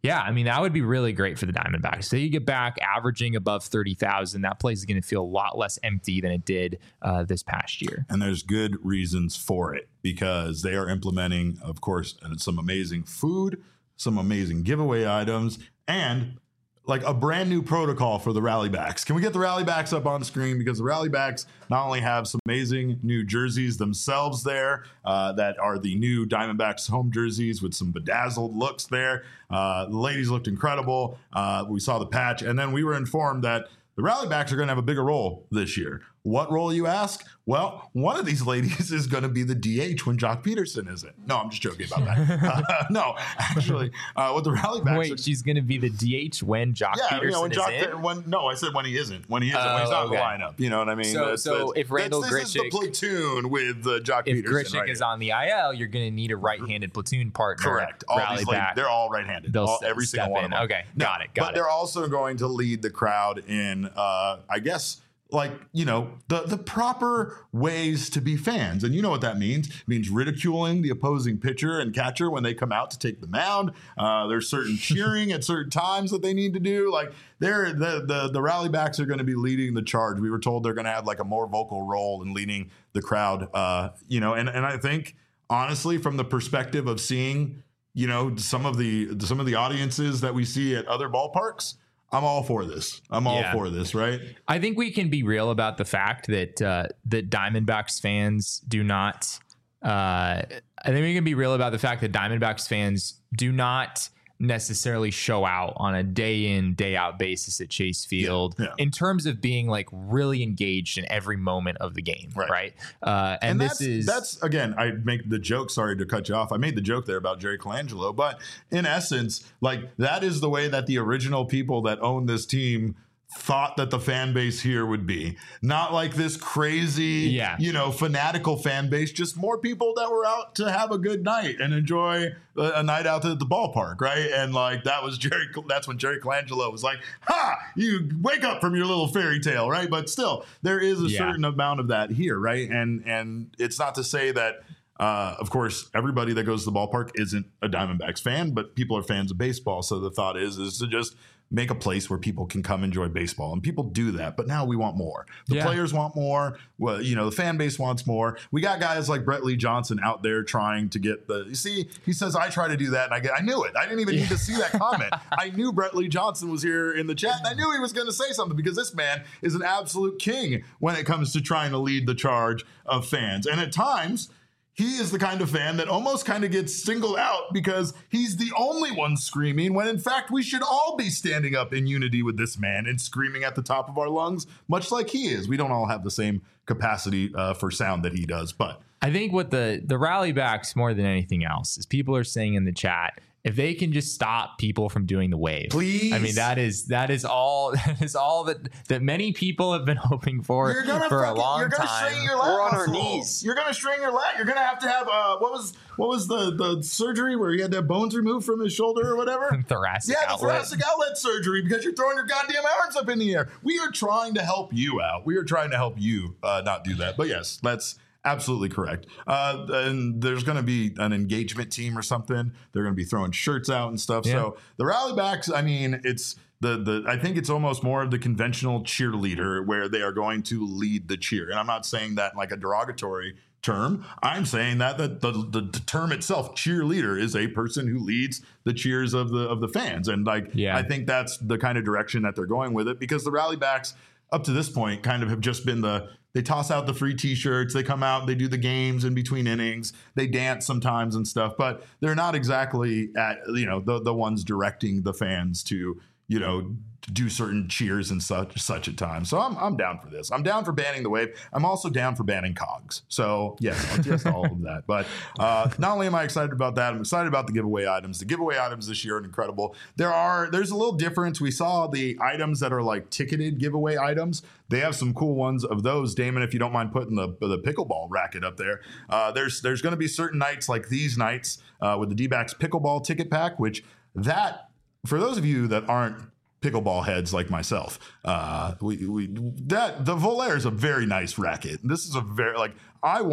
Yeah, I mean, that would be really great for the Diamondbacks. So you get back averaging above thirty thousand. That place is going to feel a lot less empty than it did uh, this past year. And there's good reasons for it because they are implementing, of course, some amazing food, some amazing giveaway items, and like a brand new protocol for the Rallybacks. Can we get the Rallybacks up on the screen? Because the Rallybacks not only have some amazing new jerseys themselves there uh, that are the new Diamondbacks home jerseys with some bedazzled looks there. Uh, the ladies looked incredible. Uh, we saw the patch. And then we were informed that the Rallybacks are going to have a bigger role this year. What role, you ask? Well, one of these ladies is going to be the D H when Jock Peterson isn't. No, I'm just joking about that. uh, no, actually, uh, what the Rallybacks Wait, are, she's going to be the D H when Jock yeah, Peterson you know, when is Jock, in? when, no, I said when he isn't. When he isn't. Oh, when he's not okay. in the lineup. You know what I mean? So, That's- so that's- if Randall that's, this is the Grichuk, platoon with uh, Jock if Peterson. Grichuk right is here. on the I L, you're going to need a right-handed platoon partner. Correct. All Rally these ladies, back. they're all right-handed. They'll All, step- every single step one in. of them. Okay, No, got it, got but it. they're also going to lead the crowd in, uh, I guess, like, you know, the, the proper ways to be fans. And you know what that means. It means ridiculing the opposing pitcher and catcher when they come out to take the mound. Uh, there's certain cheering at certain times that they need to do. Like, they're, the, the, the Rallybacks are going to be leading the charge. We were told they're going to have like a more vocal role in leading the crowd, uh, you know, and, and I think, honestly, from the perspective of seeing, you know, some of the some of the audiences that we see at other ballparks, I'm all for this. I'm all Yeah. for this, right? I think we can be real about the fact that uh, that Diamondbacks fans do not. Uh, I think we can be real about the fact that Diamondbacks fans do not necessarily show out on a day in, day out basis at Chase Field Yeah, yeah. in terms of being like really engaged in every moment of the game, Right. right? Uh, and, And this that's, is that's again, I make the joke, sorry to cut you off. I made the joke there about Jerry Colangelo, but in essence, like that is the way that the original people that own this team thought that the fan base here would be. Not like this crazy, Yeah. you know, fanatical fan base, just more people that were out to have a good night and enjoy a, a night out at the ballpark, right? And like that was Jerry, that's when Jerry Colangelo was like, ha, you wake up from your little fairy tale, right? But still, there is a Yeah. certain amount of that here, right? And and it's not to say that Uh, of course, everybody that goes to the ballpark isn't a Diamondbacks fan, but people are fans of baseball. So the thought is, is to just make a place where people can come enjoy baseball, and people do that. But now we want more. The Yeah. players want more. Well, you know, the fan base wants more. We got guys like Brett Lee Johnson out there trying to get the. You see, he says I try to do that, and I get. I knew it. I didn't even need to see that comment. I knew Brett Lee Johnson was here in the chat, and I knew he was going to say something because this man is an absolute king when it comes to trying to lead the charge of fans, and at times. He is the kind of fan that almost kind of gets singled out because he's the only one screaming when in fact we should all be standing up in unity with this man and screaming at the top of our lungs, much like he is. We don't all have the same capacity uh, for sound that he does, but I think what the the Rallybacks more than anything else is people are saying in the chat, if they can just stop people from doing the wave, Please. I mean, that is that is all that is all that that many people have been hoping for You're gonna for fucking, a long you're gonna time. strain your lat We're on our muscle. knees. You're gonna strain your lat. You're gonna have to have uh, what was what was the the surgery where he had to have bones removed from his shoulder or whatever? Thoracic Yeah, the outlet. thoracic outlet surgery because you're throwing your goddamn arms up in the air. We are trying to help you out. We are trying to help you uh, not do that. But yes, that's absolutely correct. Uh, and there's going to be an engagement team or something. They're going to be throwing shirts out and stuff. Yeah. So the Rallybacks, I mean, it's the the. I think it's almost more of the conventional cheerleader where they are going to lead the cheer. And I'm not saying that in like a derogatory term. I'm saying that the, the the term itself, cheerleader, is a person who leads the cheers of the of the fans. And like, Yeah. I think that's the kind of direction that they're going with it because the Rallybacks up to this point kind of have just been the they toss out the free t-shirts, they come out, they do the games in between innings, they dance sometimes and stuff, but they're not exactly at, you know, the the ones directing the fans to, you know, do certain cheers and such such at times. So I'm I'm down for this. I'm down for banning the wave. I'm also down for banning cogs. So yes, just all of that. But uh, not only am I excited about that, I'm excited about the giveaway items. The giveaway items this year are incredible. There are there's a little difference. We saw the items that are like ticketed giveaway items. They have some cool ones of those. Damon, if you don't mind putting the the pickleball racket up there, uh, there's there's going to be certain nights like these nights uh, with the D-backs pickleball ticket pack, which that for those of you that aren't pickleball heads like myself, uh, we, we that the Volaire is a very nice racket. This is a very like I want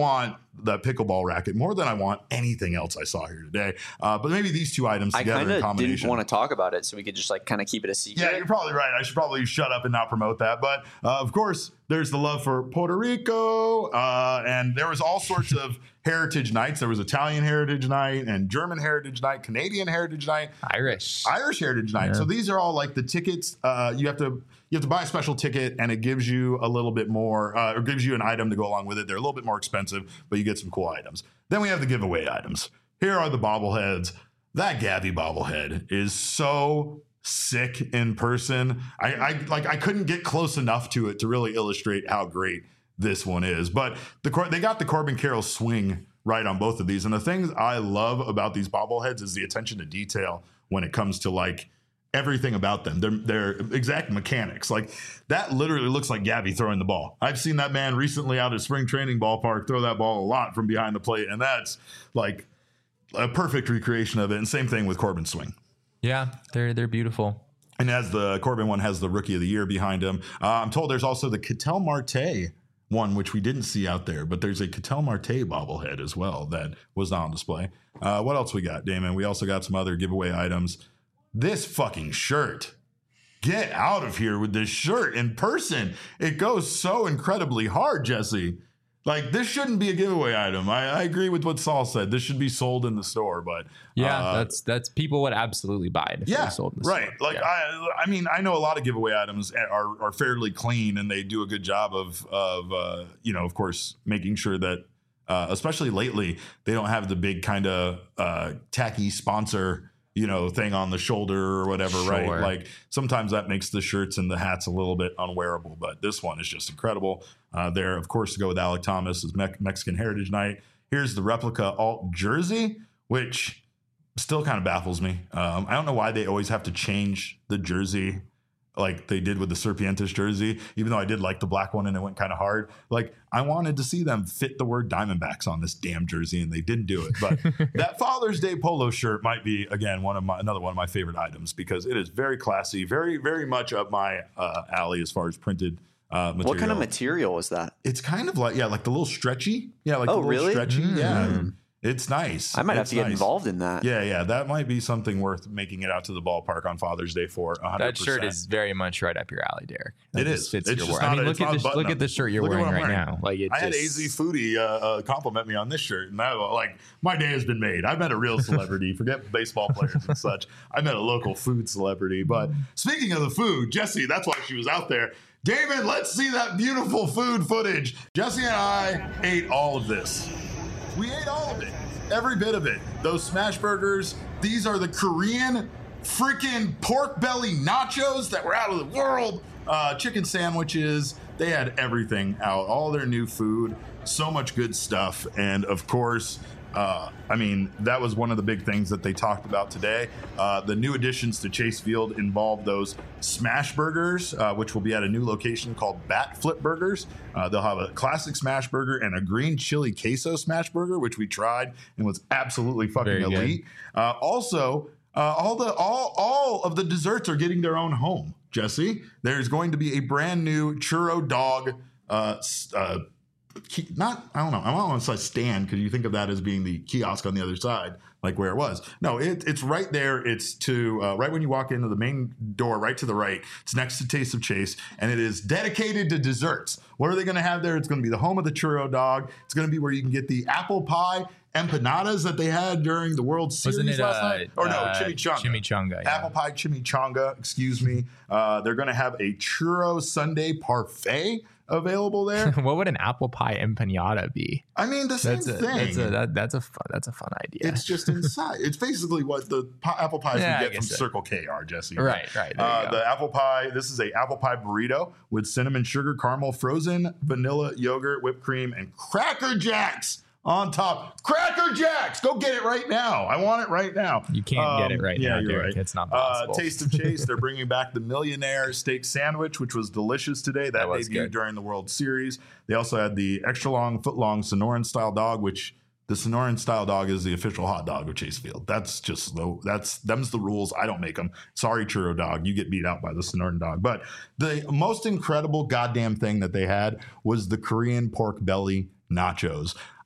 that pickleball racket more than I want anything else I saw here today. Uh, but maybe these two items I together kind in of combination. didn't want to talk about it, so we could just like kind of keep it a secret. Yeah, you're probably right. I should probably shut up and not promote that. But uh, of course, there's the love for Puerto Rico, uh, and there was all sorts of heritage nights. There was Italian Heritage Night and German Heritage Night, Canadian Heritage Night, Irish. Irish Heritage Night. Yeah. So these are all like the tickets. Uh, you have to you have to buy a special ticket, and it gives you a little bit more, uh, or gives you an item to go along with it. They're a little bit more expensive, but you get some cool items. Then we have the giveaway items. Here are the bobbleheads. That Gabby bobblehead is so sick in person. I, I like I couldn't get close enough to it to really illustrate how great this one is. But the they got the Corbin Carroll swing right on both of these. And the things I love about these bobbleheads is the attention to detail when it comes to like everything about them. They're, they're exact mechanics. Like that literally looks like Gabby throwing the ball. I've seen that man recently out at spring training ballpark throw that ball a lot from behind the plate. And that's like a perfect recreation of it. And same thing with Corbin's swing. Yeah, they're they're beautiful. And as the Corbin one has the Rookie of the Year behind him, uh, I'm told there's also the Ketel Marte one, which we didn't see out there, but there's a Ketel Marte bobblehead as well that was not on display. Uh, what else we got, Damon? We also got some other giveaway items. This fucking shirt. Get out of here with this shirt in person. It goes so incredibly hard, Jesse. Like, this shouldn't be a giveaway item. I, I agree with what Saul said. This should be sold in the store, but Yeah, uh, that's that's people would absolutely buy it if yeah, they sold in the right. store. Like Yeah. I, I mean, I know a lot of giveaway items are are fairly clean, and they do a good job of of uh, you know, of course, making sure that, uh, especially lately, they don't have the big kind of uh, tacky sponsor, you know, thing on the shoulder or whatever, Sure. right? Like sometimes that makes the shirts and the hats a little bit unwearable, but this one is just incredible. Uh, there, of course, to go with Alec Thomas is Me- Mexican Heritage Night. Here's the replica alt jersey, which still kind of baffles me. Um, I don't know why they always have to change the jersey like they did with the Serpientes jersey, even though I did like the black one and it went kind of hard. Like I wanted to see them fit the word Diamondbacks on this damn jersey, and they didn't do it. But that Father's Day polo shirt might be, again, one of my another one of my favorite items because it is very classy, very, very much up my uh, alley as far as printed uh, material. What kind of material is that? It's kind of like, yeah, like the little stretchy. Yeah, like Oh, the little really? stretchy. Mm. Yeah. It's nice. I might have It's to get nice. involved in that. Yeah, yeah, that might be something worth making it out to the ballpark on Father's Day for. one hundred percent. That shirt is very much right up your alley, Derek. That It just is. Fits It's your just wor- I not mean, a- look it's not at a the button look up. at the shirt you're Look at wearing what I'm right wearing. now. Like it I had just, A Z Foodie uh, uh, compliment me on this shirt, and I like my day has been made. I met a real celebrity. Forget baseball players and such. I met a local food celebrity. But speaking of the food, Jesse, that's why she was out there. Damon, let's see that beautiful food footage. Jesse and I ate all of this. We ate all of it. Every bit of it. Those smash burgers. These are the Korean freaking pork belly nachos that were out of the world. Uh, chicken sandwiches. They had everything out. All their new food. So much good stuff. And of course, uh, I mean, that was one of the big things that they talked about today. Uh, the new additions to Chase Field involve those smash burgers, uh, which will be at a new location called Bat Flip Burgers. Uh, they'll have a classic smash burger and a green chili queso smash burger, which we tried and was absolutely fucking Very good. elite. Uh, also, uh, all the all all of the desserts are getting their own home. Jesse, there's going to be a brand new churro dog. Uh, s- uh, Ki- not I don't know I don't want to say stand because you think of that as being the kiosk on the other side, like where it was. No, it, it's right there. It's to uh, right when you walk into the main door, right to the right. It's next to Taste of Chase, and it is dedicated to desserts. What are they going to have there? It's going to be the home of the churro dog. It's going to be where you can get the apple pie empanadas that they had during the World Series wasn't it last uh, night. Or no, uh, chimichanga. Chimichanga. Yeah. Apple pie chimichanga, excuse me. Uh, they're going to have a churro sundae parfait available there. What would an apple pie empanada be? I mean, the same That's a thing. that's a that, that's a fun that's a fun idea. It's just inside. It's basically what the pi- apple pies Yeah, I you get from guess so. Circle K are, Jesse. Right, right, there you Uh, go. the apple pie. This is a apple pie burrito with cinnamon sugar caramel, frozen vanilla yogurt, whipped cream, and Cracker Jacks on top. Cracker Jacks, go get it right now. I want it right now. You can't get it right yeah, now, you're Derek. right. It's not Uh, possible. Taste of Chase. They're bringing back the Millionaire Steak Sandwich, which was delicious today. That, That was debuted good. during the World Series. They also had the extra long, foot long Sonoran style dog, which the Sonoran style dog is the official hot dog of Chase Field. That's just the that's them's the rules. I don't make them. Sorry, churro dog, you get beat out by the Sonoran dog. But the most incredible goddamn thing that they had was the Korean pork belly nachos.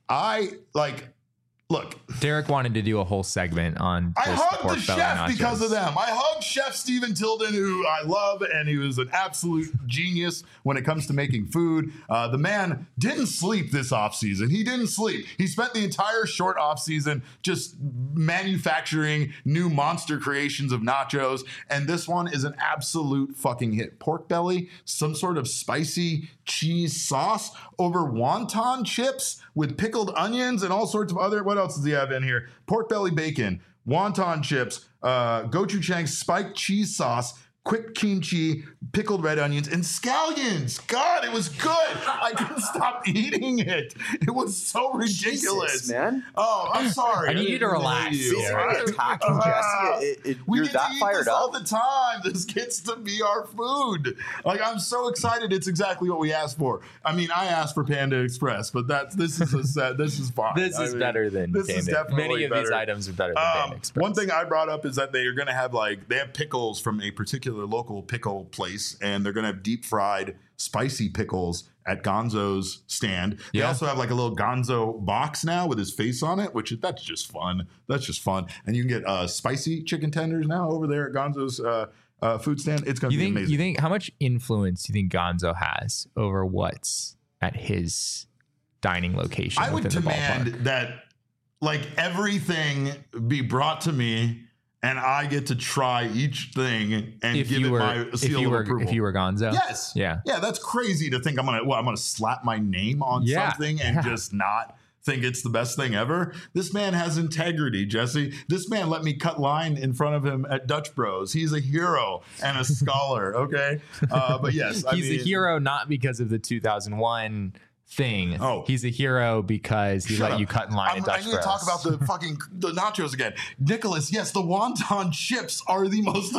I like. Look, Derek wanted to do a whole segment on I just hugged pork the belly chef nachos. because of them. I hugged Chef Stephen Tilden, who I love, and he was an absolute genius when it comes to making food. Uh, the man didn't sleep this offseason. He didn't sleep. He spent the entire short offseason just manufacturing new monster creations of nachos, and this one is an absolute fucking hit. Pork belly, some sort of spicy cheese sauce over wonton chips with pickled onions and all sorts of other, what else does he have in here? Pork belly bacon, wonton chips, uh, gochujang spiked cheese sauce, quick kimchi, pickled red onions, and scallions. God, it was good. I couldn't stop eating it. It was so ridiculous. Jesus, man. Oh, I'm sorry. I need you to didn't mean relax. you. Is there I- any attacking Ah, Jesse? It- it- we you're get that to eat fired this all up? the time. This gets to be our food. Like, I'm so excited. It's exactly what we asked for. I mean, I asked for Panda Express, but that's this is a set. This is fine. This I is mean, better than this is Panda. definitely Many of better. these items are better than Um, Panda Express. one thing I brought up is that they are going to have like they have pickles from a particular local pickle place, and they're going to have deep fried spicy pickles at Gonzo's stand. They Yeah. also have like a little Gonzo box now with his face on it, which is, that's just fun. That's just fun. And you can get uh, spicy chicken tenders now over there at Gonzo's uh, uh, food stand. It's going to you be think amazing. you think how much influence do you think Gonzo has over what's at his dining location? I would within the demand ballpark? that like everything be brought to me, and I get to try each thing and if give you it were my if seal you of were approval. if you were Gonzo. Yes. Yeah. Yeah, that's crazy to think I'm gonna well, I'm gonna slap my name on Yeah. something and Yeah. just not think it's the best thing ever. This man has integrity, Jesse. This man let me cut line in front of him at Dutch Bros. He's a hero and a scholar. Okay, uh, but yes, I He's mean, a hero not because of the two thousand one thing. Oh. He's a hero because he Shut let up. you cut in line I'm- at Dutch I need Bros. to talk about the fucking the nachos again. Nicholas, yes, the wonton chips are the most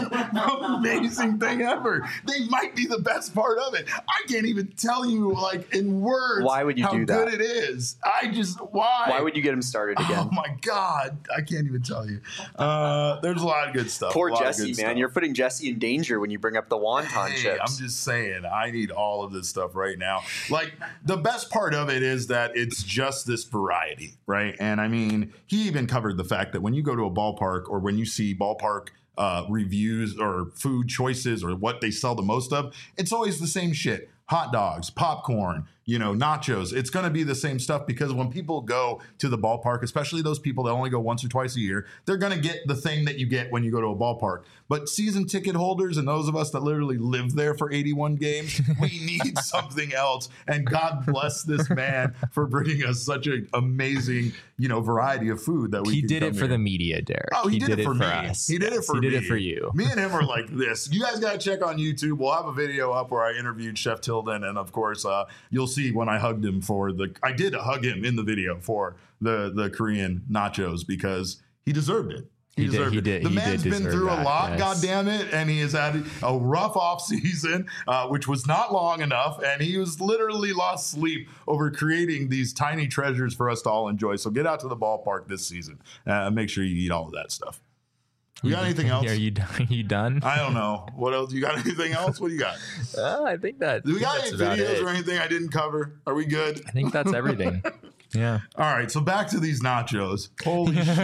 amazing thing ever. They might be the best part of it. I can't even tell you, like, in words, Why would you how do that? good it is. I just, why? Why would you get him started again? Oh my God. I can't even tell you. Uh, there's a lot of good stuff. Poor a lot of Jesse, good man. stuff. You're putting Jesse in danger when you bring up the wonton Hey, chips. I'm just saying, I need all of this stuff right now. Like, the best part of it is that it's just this variety, right? And I mean, he even covered the fact that when you go to a ballpark or when you see ballpark uh, reviews or food choices or what they sell the most of, it's always the same shit. Hot dogs, popcorn, you know, nachos. It's going to be the same stuff because when people go to the ballpark, especially those people that only go once or twice a year, they're going to get the thing that you get when you go to a ballpark. But season ticket holders and those of us that literally live there for eighty-one games, we need something else. And God bless this man for bringing us such an amazing, you know, variety of food that we he can did come for here. the media, Derek. Oh, he, did, it for me. us. He did it Yes, for he me. did it for you. Me and him are like this. You guys got to check on YouTube. We'll have a video up where I interviewed Chef Tilden, and of course, uh, you'll see when I hugged him for the. I did hug him in the video for the the Korean nachos because he deserved it. He, He did- deserved he it. did- the he man's did been deserve through a that, lot, yes. God damn it, and he has had a rough off season, uh, which was not long enough, and he was literally lost sleep over creating these tiny treasures for us to all enjoy. So get out to the ballpark this season. Uh, make sure you eat all of that stuff. You got anything else? Are you done? Are you done? I don't know. What else? You got anything else? What do you got? Uh, I think that. Do we got that's any about videos it. or anything I didn't cover? Are we good? I think that's everything. Yeah. All right, so back to these nachos. Holy shit.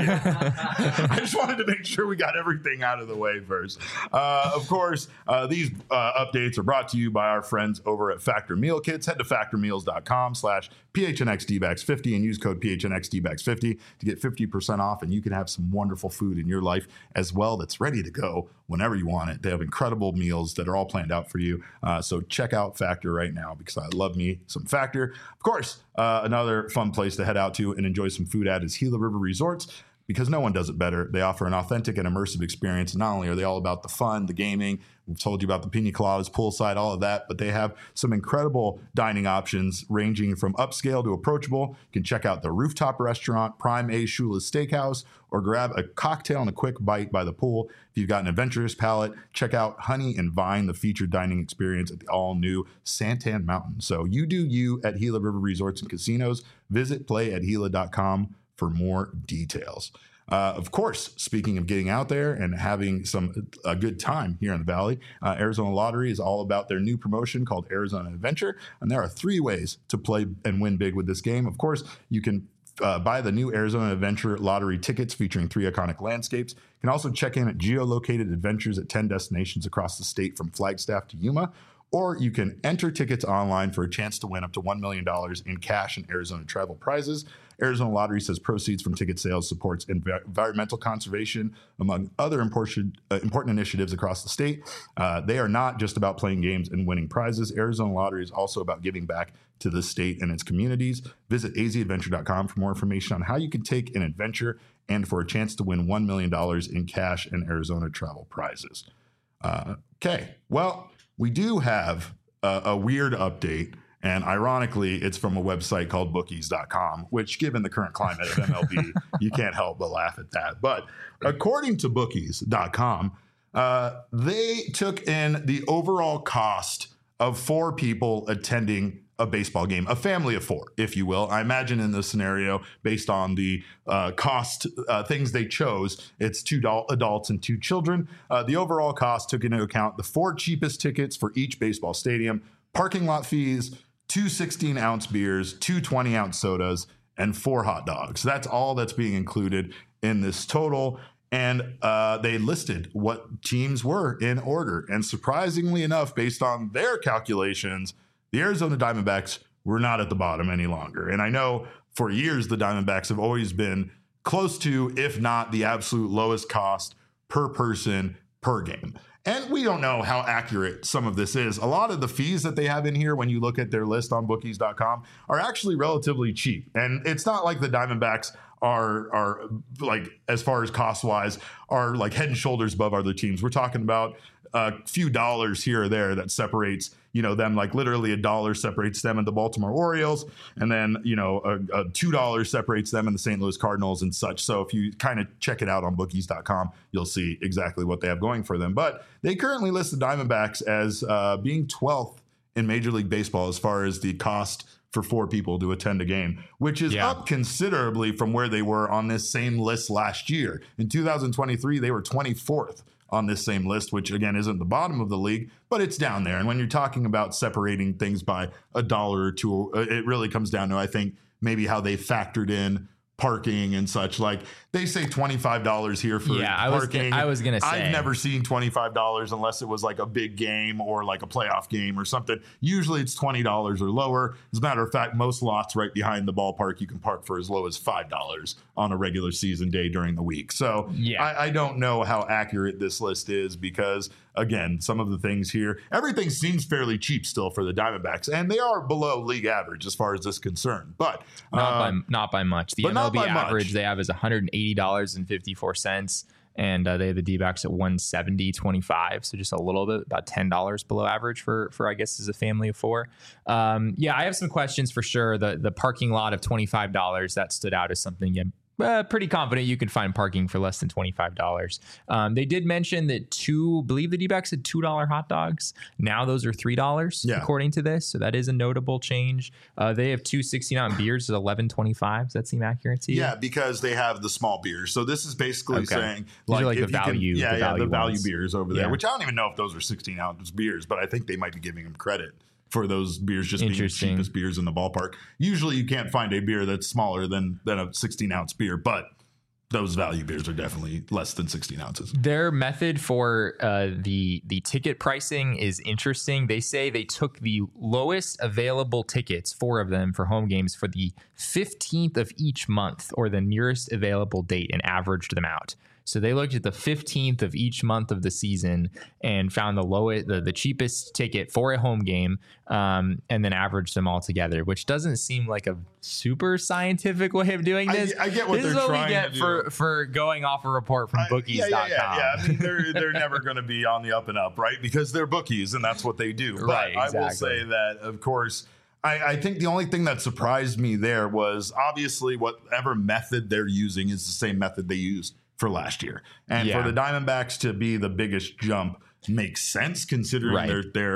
I just wanted to make sure we got everything out of the way first. Uh, of course, uh, these uh, updates are brought to you by our friends over at Factor Meal Kits. Head to factor meals dot com slash P H N X D backs fifty and use code P H N X D backs fifty to get fifty percent off, and you can have some wonderful food in your life as well that's ready to go whenever you want it. They have incredible meals that are all planned out for you. Uh, so check out Factor right now because I love me some Factor. Of course, uh, another fun place to head out to and enjoy some food at is Gila River Resorts, because no one does it better. They offer an authentic and immersive experience. And not only are they all about the fun, the gaming, we've told you about the pina coladas, poolside, all of that, but they have some incredible dining options ranging from upscale to approachable. You can check out the rooftop restaurant, Prime A Shula's Steakhouse, or grab a cocktail and a quick bite by the pool. If you've got an adventurous palate, check out Honey and Vine, the featured dining experience at the all-new Santan Mountain. So you do you at Gila River Resorts and Casinos. Visit play at gila dot com for more details. Uh, of course, speaking of getting out there and having some a good time here in the Valley, uh, Arizona Lottery is all about their new promotion called Arizona Adventure. And there are three ways to play and win big with this game. Of course, you can uh, buy the new Arizona Adventure Lottery tickets featuring three iconic landscapes. You can also check in at geolocated adventures at ten destinations across the state from Flagstaff to Yuma. Or you can enter tickets online for a chance to win up to one million dollars in cash and Arizona travel prizes. Arizona Lottery says proceeds from ticket sales supports env- environmental conservation, among other important, uh, important initiatives across the state. Uh, they are not just about playing games and winning prizes. Arizona Lottery is also about giving back to the state and its communities. Visit a z adventure dot com for more information on how you can take an adventure and for a chance to win one million dollars in cash and Arizona travel prizes. Uh, okay, well, we do have a, a weird update, and ironically, it's from a website called bookies dot com, which, given the current climate of M L B, you can't help but laugh at that. But according to bookies dot com, uh, they took in the overall cost of four people attending a baseball game, a family of four, if you will. I imagine in this scenario, based on the uh, cost uh, things they chose, it's two do- adults and two children. Uh, the overall cost took into account the four cheapest tickets for each baseball stadium, parking lot fees, two sixteen-ounce beers, two twenty-ounce sodas, and four hot dogs. That's all that's being included in this total. And uh, they listed what teams were in order. And surprisingly enough, based on their calculations, the Arizona Diamondbacks were not at the bottom any longer. And I know for years the Diamondbacks have always been close to, if not the absolute lowest cost per person per game. And we don't know how accurate some of this is. A lot of the fees that they have in here, when you look at their list on bookies dot com, are actually relatively cheap. And it's not like the Diamondbacks are, are like, as far as cost wise, are like head and shoulders above other teams. We're talking about a few dollars here or there that separates, you know, them, like literally a dollar separates them and the Baltimore Orioles. And then, you know, a, a two dollars separates them and the Saint Louis Cardinals and such. So if you kind of check it out on bookies dot com, you'll see exactly what they have going for them. But they currently list the Diamondbacks as uh, being twelfth in Major League Baseball as far as the cost for four people to attend a game, which is yeah. up considerably from where they were on this same list last year. In two thousand twenty-three, they were twenty-fourth on this same list, which again isn't the bottom of the league, but it's down there. And when you're talking about separating things by a dollar or two, it really comes down to, I think, maybe how they factored in parking and such. Like they say twenty-five dollars here for yeah, parking. I was, I was going to say. I've never seen twenty-five dollars unless it was like a big game or like a playoff game or something. Usually it's twenty dollars or lower. As a matter of fact, most lots right behind the ballpark, you can park for as low as five dollars on a regular season day during the week. So yeah. I, I don't know how accurate this list is because, again, some of the things here, everything seems fairly cheap still for the Diamondbacks, and they are below league average as far as this is concerned. But not, uh, by, not by much. The M L B average much. They have is one hundred eighty dollars and fifty-four cents, and uh, they have the D-backs at one seventy twenty-five, so just a little bit, about ten dollars below average for, for I guess, as a family of four. Um, yeah, I have some questions for sure. The the parking lot of twenty-five dollars, that stood out as something you Uh, pretty confident you could find parking for less than twenty-five dollars. Um, they did mention that two, believe the D-backs had two dollar hot dogs. Now those are three dollars yeah. according to this. So that is a notable change. Uh, they have two sixty-ounce beers at eleven twenty-five. Does that seem accurate to you? Yeah, because they have the small beers. So this is basically okay. saying like, like the value, can, yeah, the yeah, value the value ones. beers over there, yeah. which I don't even know if those are sixteen ounce beers, but I think they might be giving them credit for those beers just being the cheapest beers in the ballpark. Usually you can't find a beer that's smaller than than a sixteen ounce beer, but those value beers are definitely less than sixteen ounces. Their method for uh, the the ticket pricing is interesting. They say they took the lowest available tickets, four of them for home games, for the fifteenth of each month or the nearest available date and averaged them out. So they looked at the fifteenth of each month of the season and found the lowest, the, the cheapest ticket for a home game, um, and then averaged them all together, which doesn't seem like a super scientific way of doing this. I, I get what this they're is what trying we get to do. for for going off a report from bookies dot com. Yeah, yeah, yeah, yeah. I mean, they're they're never going to be on the up and up, right? Because they're bookies, and that's what they do. But right, exactly. I will say that, of course, I, I think the only thing that surprised me there was obviously whatever method they're using is the same method they used for last year. And yeah. for the Diamondbacks to be the biggest jump makes sense considering right. their their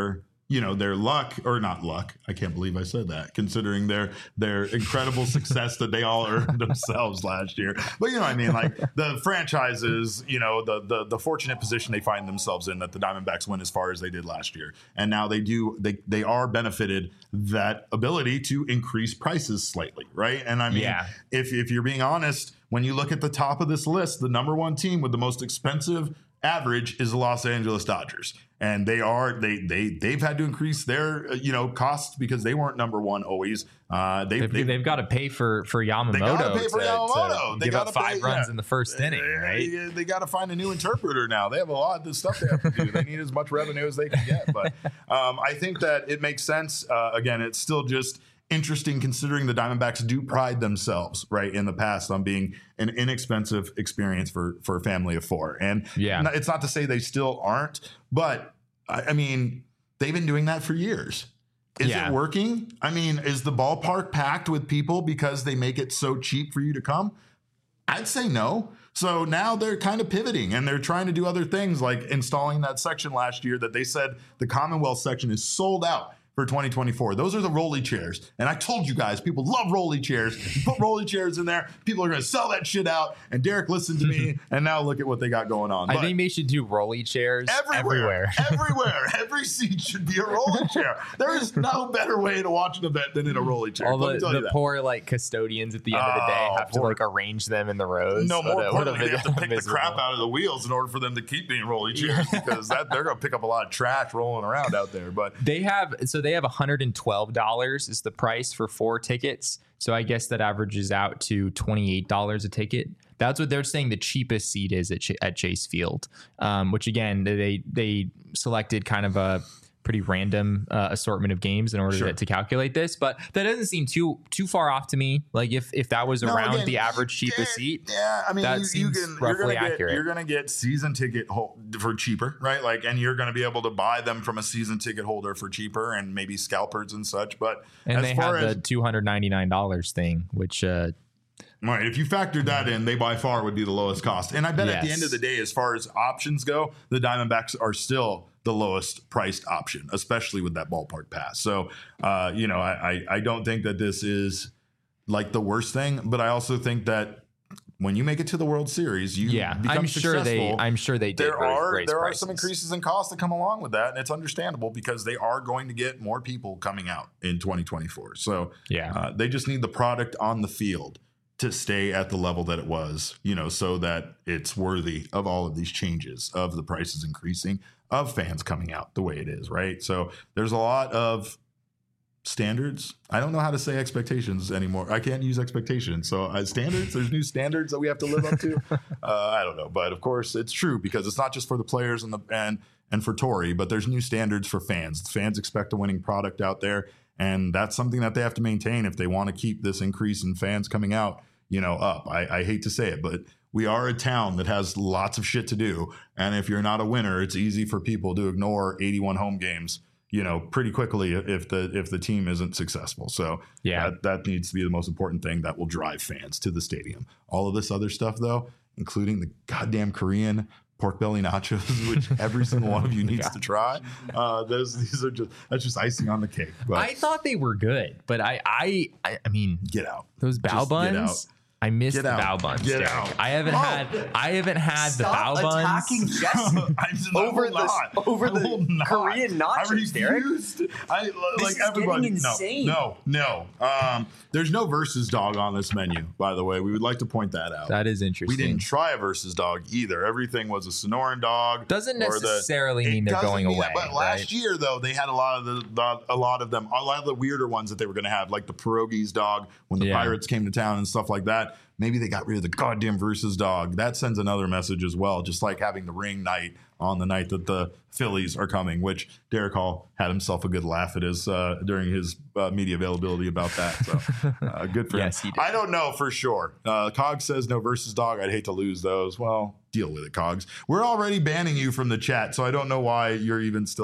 you know, their luck or not luck. I can't believe I said that, considering their their incredible success that they all earned themselves last year. But you know what I mean? Like the franchises, you know, the, the the fortunate position they find themselves in that the Diamondbacks went as far as they did last year. And now they do they they are benefited that ability to increase prices slightly, right? And I mean, Yeah. if if you're being honest, when you look at the top of this list, the number one team with the most expensive average is the Los Angeles Dodgers. And they are they they they've had to increase their uh, you know costs because they weren't number one always. Uh, they They've, they've, they've got to pay for for Yamamoto, They gotta pay for to, Yamamoto. to They give gotta up five pay- runs yeah. in the first inning, right? They, they got to find a new interpreter now. They have a lot of stuff they have to do. They need as much revenue as they can get. But um, I think that it makes sense. Uh, again, it's still just interesting considering the Diamondbacks do pride themselves, right, in the past on being an inexpensive experience for for a family of four. And Yeah. n- it's not to say they still aren't, but I, I mean, they've been doing that for years. Is Yeah. it working? I mean, is the ballpark packed with people because they make it so cheap for you to come? I'd say no. So now they're kind of pivoting and they're trying to do other things like installing that section last year that they said the Commonwealth section is sold out for twenty twenty-four. Those are the rolly chairs. And I told you guys, people love rolly chairs. You put rolly chairs in there, people are going to sell that shit out. And Derek listened to me, and now look at what they got going on. I But think they should do rolly chairs everywhere, everywhere. everywhere, every seat should be a rolling chair. There is no better way to watch an event than in a rolling chair. All Let the, me tell the you that. poor like custodians at the end of the day Oh, have poor- to like arrange them in the rows. No, more What a- what a importantly, they have to pick the miserable- crap out of the wheels in order for them to keep being rolling chairs because that they're going to pick up a lot of trash rolling around out there. But They have so they have one hundred twelve dollars is the price for four tickets. So I guess that averages out to twenty-eight dollars a ticket. That's what they're saying the cheapest seat is at, Ch- at Chase Field, um, which again they they selected kind of a pretty random uh, assortment of games in order Sure. to, to calculate this, but that doesn't seem too too far off to me. Like if if that was No, around again, the average cheapest yeah, seat, Yeah, I mean, that you, you seems can you're roughly gonna get accurate. you're gonna get season ticket hol- for cheaper, right? Like, and you're gonna be able to buy them from a season ticket holder for cheaper, and maybe scalpers and such. But and as they far have as the two hundred ninety-nine dollars thing, which uh, right, if you factored that in, they by far would be the lowest cost. And I bet at the Yes. end of the day, as far as options go, the Diamondbacks are still the lowest priced option, especially with that ballpark pass. So, uh, you know, I, I I don't think that this is like the worst thing, but I also think that when you make it to the World Series, you yeah, become I'm sure they successful. I'm sure they did there raise- are raise there prices. are some increases in cost that come along with that, and it's understandable because they are going to get more people coming out in twenty twenty-four. So Yeah. uh, they just need the product on the field to stay at the level that it was, you know, so that it's worthy of all of these changes, of the prices increasing, of fans coming out the way it is, right? So there's a lot of standards. I don't know how to say expectations anymore. I can't use expectations. So uh, standards, there's new standards that we have to live up to. Uh, I don't know, but of course it's true because it's not just for the players and the and and for Torrey, but there's new standards for fans. Fans expect a winning product out there, and that's something that they have to maintain if they want to keep this increase in fans coming out, you know, up. I, I hate to say it, but we are a town that has lots of shit to do, and if you're not a winner, it's easy for people to ignore eighty-one home games, you know, pretty quickly if the if the team isn't successful. So Yeah. that, that needs to be the most important thing that will drive fans to the stadium. All of this other stuff, though, including the goddamn Korean pork belly nachos, which every single one of you needs to try. Uh, those these are just that's just icing on the cake. But I thought they were good, but I I I, I mean get out. those bao Just get buns. I missed Get the out. bao buns. Get Derek. out. I haven't Oh, had I haven't had the Stop bao buns. attacking Jesse I over will the not. over I will the not. Korean I nachos, Derek. refused. I like is everybody. getting insane. No, no, no. Um, there's no versus dog on this menu. By the way, we would like to point that out. That is interesting. We didn't try a versus dog either. Everything was a Sonoran dog. Doesn't or the- necessarily It mean they're doesn't going mean away. that, but last right? year, though, they had a lot of the, the a lot of them, a lot of the weirder ones that they were going to have, like the pierogies dog when the Yeah. Pirates came to town and stuff like that. Maybe they got rid of the goddamn versus dog. That sends another message as well, just like having the ring night on the night that the Phillies are coming, which Derek Hall had himself a good laugh at his uh, during his uh, media availability about that. So uh, good for Yes, him. he did. I don't know for sure. Uh, Cogs says no versus dog. I'd hate to lose those. Well, deal with it, Cogs. We're already banning you from the chat, so I don't know why you're even still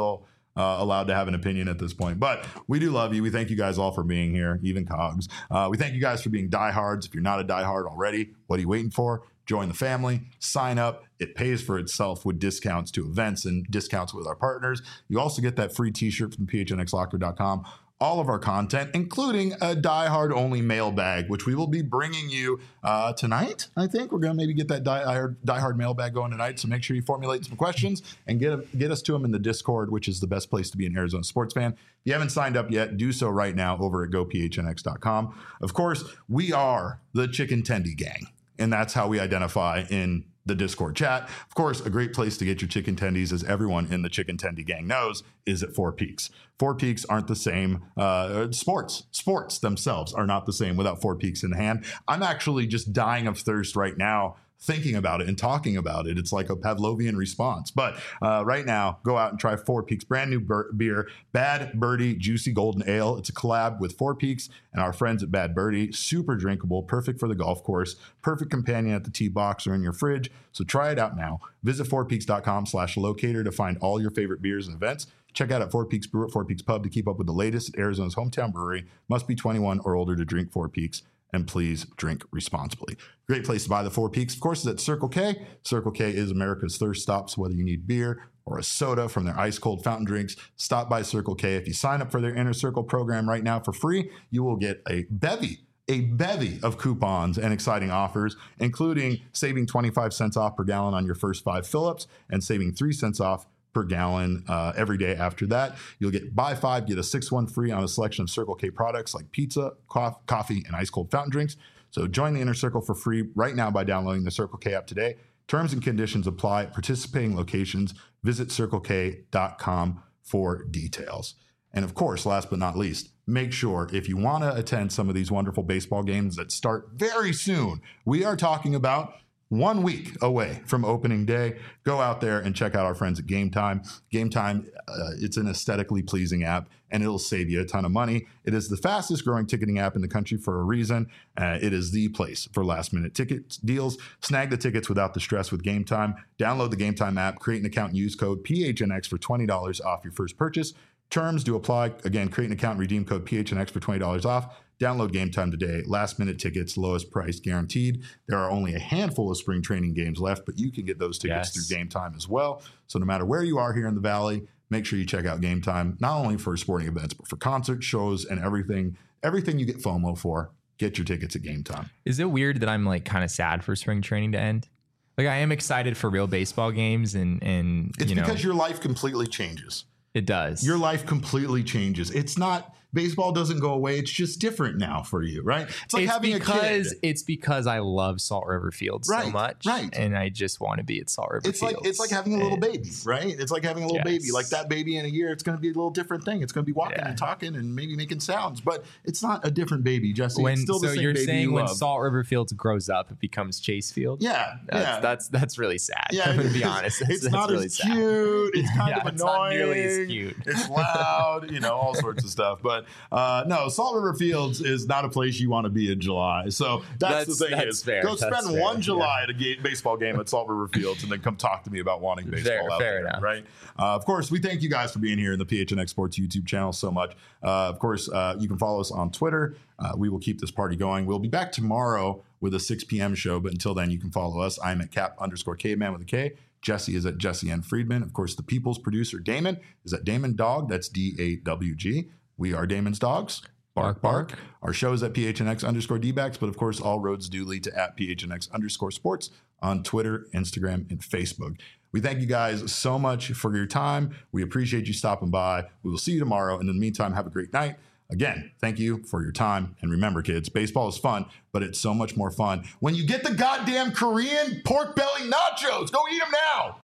uh, allowed to have an opinion at this point. But we do love you. We thank you guys all for being here, even Cogs. Uh, we thank you guys for being diehards. If you're not a diehard already, what are you waiting for? Join the family, sign up. It pays for itself with discounts to events and discounts with our partners. You also get that free t-shirt from P H N X locker dot com. All of our content, including a diehard only mailbag, which we will be bringing you uh, tonight. I think we're going to maybe get that diehard, diehard mailbag going tonight. So make sure you formulate some questions and get, get us to them in the Discord, which is the best place to be an Arizona sports fan. If you haven't signed up yet, do so right now over at go P H N X dot com. Of course, we are the Chicken Tendy Gang, and that's how we identify in the Discord chat. Of course, a great place to get your chicken tendies, as everyone in the Chicken Tendy Gang knows, is at Four Peaks. Four Peaks aren't the same. Uh, sports, sports themselves are not the same without Four Peaks in hand. I'm actually just dying of thirst right now thinking about it and talking about it. It's like a Pavlovian response. But uh, right now, go out and try Four Peaks brand new ber- beer, Bad Birdie Juicy Golden Ale. It's a collab with Four Peaks and our friends at Bad Birdie. Super drinkable, perfect for the golf course, perfect companion at the tee box or in your fridge. So try it out now. Visit four peaks dot com slash locator to find all your favorite beers and events. Check out at Four Peaks Brew at Four Peaks Pub to keep up with the latest at Arizona's hometown brewery. Must be twenty-one or older to drink Four Peaks. And please drink responsibly. Great place to buy the Four Peaks, of course, is at Circle K. Circle K is America's thirst stop. So whether you need beer or a soda from their ice cold fountain drinks, stop by Circle K. If you sign up for their Inner Circle program right now for free, you will get a bevy, a bevy of coupons and exciting offers, including saving twenty-five cents off per gallon on your first five fill-ups and saving three cents off per gallon uh, every day after that. You'll get buy five, get a six one free on a selection of Circle K products like pizza, cof- coffee, and ice cold fountain drinks. So join the Inner Circle for free right now by downloading the Circle K app today. Terms and conditions apply. Participating locations, visit circle k dot com for details. And of course, last but not least, make sure if you want to attend some of these wonderful baseball games that start very soon, we are talking about one week away from opening day. Go out there and check out our friends at Game Time. Game Time, uh, it's an aesthetically pleasing app, and it'll save you a ton of money. It is the fastest growing ticketing app in the country for a reason. Uh, it is the place for last minute ticket deals. Snag the tickets without the stress with Game Time. Download the Game Time app, create an account, and use code P H N X for twenty dollars off your first purchase. Terms do apply. Again, create an account and redeem code P H N X for twenty dollars off. Download Game Time today. Last minute tickets, lowest price guaranteed. There are only a handful of spring training games left, but you can get those tickets Yes. through Game Time as well. So no matter where you are here in the Valley, make sure you check out Game Time, not only for sporting events, but for concerts, shows, and everything, everything you get FOMO for. Get your tickets at Game Time. Is it weird that I'm like kind of sad for spring training to end? Like I am excited for real baseball games, and and It's you know because your life completely changes. it does. Your life completely changes. It's not, baseball doesn't go away. It's just different now for you, right? It's like it's having because a kid. it's because I love Salt River Field so Right, much, right. and I just want to be at Salt River It's Field. like it's like having a little baby, right? It's like having a little Yes. baby. Like that baby in a year, it's going to be a little different thing. It's going to be walking Yeah. and talking and maybe making sounds, but it's not a different baby, Jesse. When it's still the so same you're baby saying you when love. Salt River Fields grows up, it becomes Chase Field. yeah, That's, yeah. that's that's really sad. yeah, I'm it gonna be is. honest. That's, It's that's not really as sad. cute. It's kind Yeah, of it's annoying. not nearly as cute. It's loud, you know, all sorts of stuff. But uh, no, Salt River Fields is not a place you want to be in July. So that's, That's- the thing that's is, fair. go That's spend fair. one July at a ga- baseball game at Salt River Fields, and then come talk to me about wanting baseball Fair- out fair there, enough. right? Uh, of course, we thank you guys for being here in the P H N X Sports YouTube channel so much. Uh, of course, uh, you can follow us on Twitter. Uh, we will keep this party going. We'll be back tomorrow with a six p.m. show, but until then, you can follow us. I'm at cap underscore caveman with a K. Jesse is at Jesse N. Friedman. Of course, the people's producer, Damon, is at Damon Dog. That's D A W G. We are Damon's Dogs. Bark, bark. Our show is at P H N X underscore D-backs, but of course, all roads do lead to at P H N X underscore sports on Twitter, Instagram, and Facebook. We thank you guys so much for your time. We appreciate you stopping by. We will see you tomorrow. And in the meantime, have a great night. Again, thank you for your time. And remember, kids, baseball is fun, but it's so much more fun when you get the goddamn Korean pork belly nachos. Go eat them now.